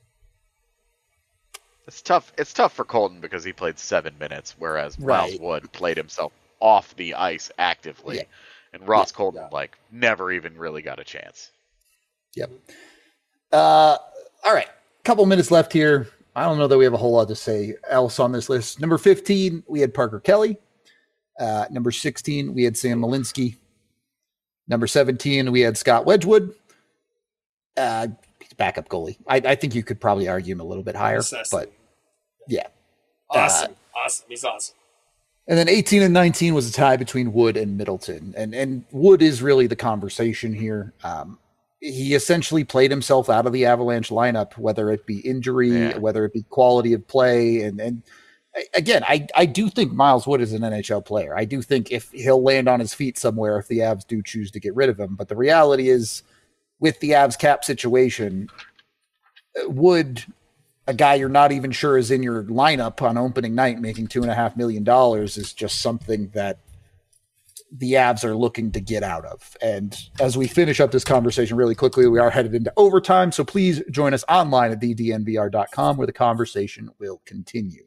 It's tough. It's tough for Colton because he played seven minutes, whereas right. Miles Wood played himself off the ice actively, yeah. and Ross yeah. Colton yeah. like never even really got a chance. Yep. Uh, all right, couple minutes left here. I don't know that we have a whole lot to say else on this list. Number fifteen, we had Parker Kelly. Uh, number sixteen, we had Sam Malinsky. Number seventeen, we had Scott Wedgwood. Uh, he's backup goalie. I, I think you could probably argue him a little bit higher, Necessity. but yeah. Awesome. Uh, awesome. He's awesome. And then eighteen and nineteen was a tie between Wood and Middleton. And, and Wood is really the conversation here. Um, he essentially played himself out of the Avalanche lineup, whether it be injury, yeah. whether it be quality of play. And, and again, I, I do think Miles Wood is an N H L player. I do think if he'll land on his feet somewhere, if the Avs do choose to get rid of him. But the reality is, with the Avs cap situation, Wood, a guy you're not even sure is in your lineup on opening night making two and a half million dollars is just something that the Avs are looking to get out of. And as we finish up this conversation really quickly, we are headed into overtime. So please join us online at the d n v r dot com where the conversation will continue.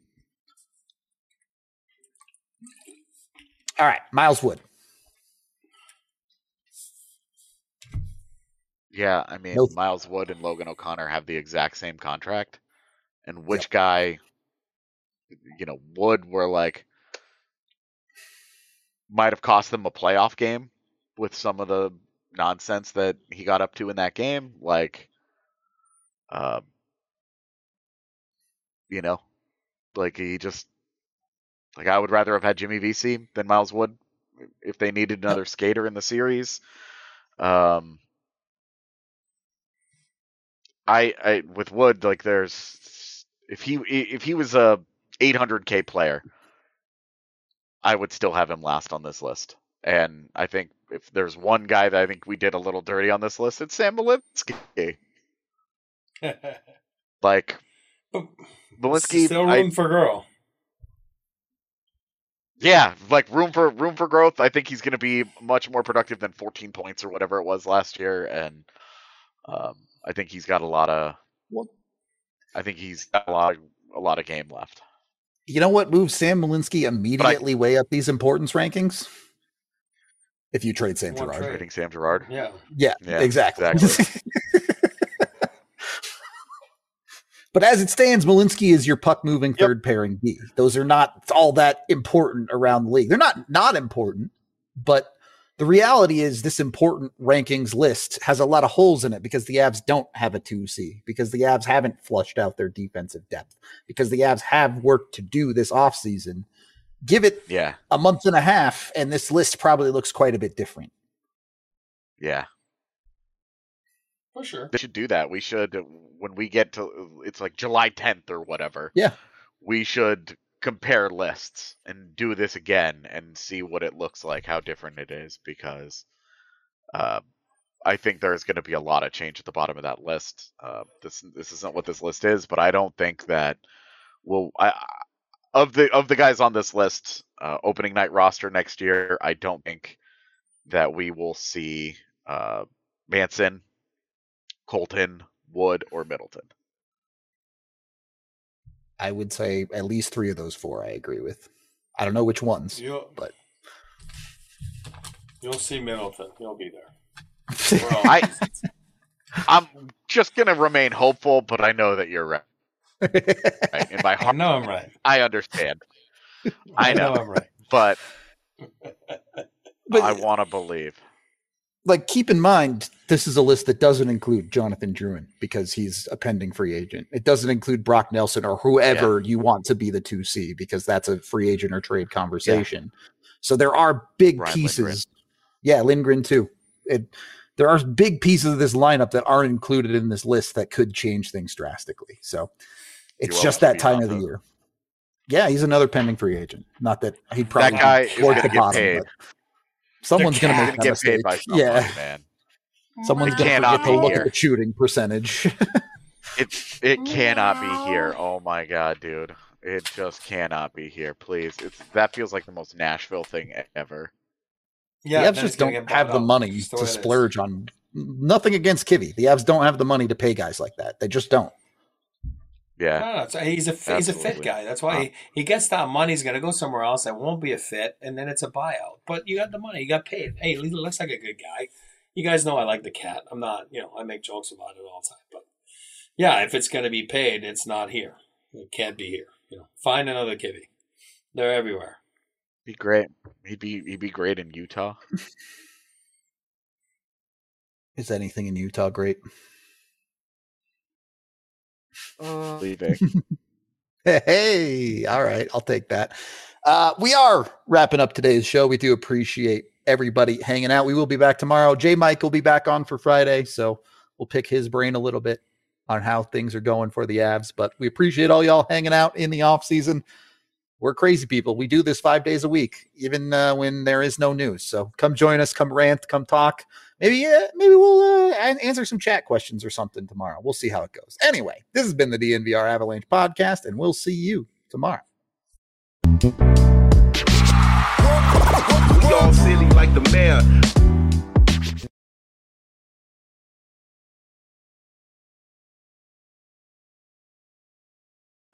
All right, Miles Wood. Yeah, I mean, nope. Miles Wood and Logan O'Connor have the exact same contract. And which yep. guy, you know, Wood were like, might have cost them a playoff game with some of the nonsense that he got up to in that game. Like, uh, you know, like he just, like I would rather have had Jimmy Vesey than Miles Wood if they needed another yep. skater in the series. Um, I, I with Wood, like there's if he if he was a eight hundred K player, I would still have him last on this list. And I think if there's one guy that I think we did a little dirty on this list, it's Sam Malinsky. Like Malinsky, still room I, for girl. Yeah, like room for room for growth. I think he's going to be much more productive than fourteen points or whatever it was last year, and um, I think he's got a lot of. Well, I think he's got a lot of a lot of game left. You know what moves Sam Malinsky immediately I, way up these importance rankings? If you trade Sam Girard. Trading Sam Girard? Yeah. Yeah, yeah exactly. exactly. But as it stands, Malinsky is your puck-moving yep. third pairing B. Those are not all that important around the league. They're not not important, but the reality is this important rankings list has a lot of holes in it because the Avs don't have a two C, because the Avs haven't flushed out their defensive depth, because the Avs have work to do this offseason. Give it yeah. a month and a half, and this list probably looks quite a bit different. Yeah. For sure. They should do that. We should, when we get to, it's like July tenth or whatever. Yeah. We should compare lists and do this again and see what it looks like, how different it is, because uh, I think there's going to be a lot of change at the bottom of that list. Uh, this this isn't what this list is, but I don't think that we'll, I, of the of the guys on this list, uh, opening night roster next year, I don't think that we will see uh, Manson, Colton, Wood, or Middleton. I would say at least three of those four I agree with. I don't know which ones, you'll, but you'll see Middleton. He'll be there. I, I'm just going to remain hopeful, but I know that you're right. right. In my heart, I know I'm right. I understand. I, I know. know I'm right. But, but I want to believe. Like, keep in mind, this is a list that doesn't include Jonathan Drouin because he's a pending free agent. It doesn't include Brock Nelson or whoever yeah. you want to be the two C because that's a free agent or trade conversation. Yeah. So there are big Ryan pieces. Lindgren. Yeah, Lindgren too. It, there are big pieces of this lineup that aren't included in this list that could change things drastically. So it's just that time of the year. Yeah, he's another pending free agent. Not that he'd probably that guy is going to get bottom, paid. Someone's going to make get mistake. paid by somebody, yeah, man. Someone's going to forget to look here. at the shooting percentage. it it cannot be here. Oh my god, dude! It just cannot be here. Please, it's that feels like the most Nashville thing ever. Yeah, the Avs just don't have the money to splurge on. Nothing against Kivy. The Avs don't have the money to pay guys like that. They just don't. Yeah, no, no, he's a Absolutely. he's a fit guy. That's why he, he gets that money. He's going to go somewhere else that won't be a fit, and then it's a buyout. But you got the money. You got paid. Hey, he looks like a good guy. You guys know I like the cat. I'm not, you know, I make jokes about it all the time. But yeah, if it's going to be paid, it's not here. It can't be here. You know, find another Kivy. They're everywhere. Be great. He'd be he'd be great in Utah. Is anything in Utah great? Uh, leaving. Hey, all right, I'll take that. Uh, we are wrapping up today's show. We do appreciate everybody hanging out. We will be back tomorrow. J Mike will be back on for Friday, so we'll pick his brain a little bit on how things are going for the Avs. But we appreciate all y'all hanging out in the off season. We're crazy people. We do this five days a week, even uh, when there is no news. So come join us, come rant, come talk. Maybe uh, maybe we'll uh, answer some chat questions or something tomorrow. We'll see how it goes. Anyway, this has been the D N V R Avalanche podcast, and we'll see you tomorrow. We all silly like the mayor.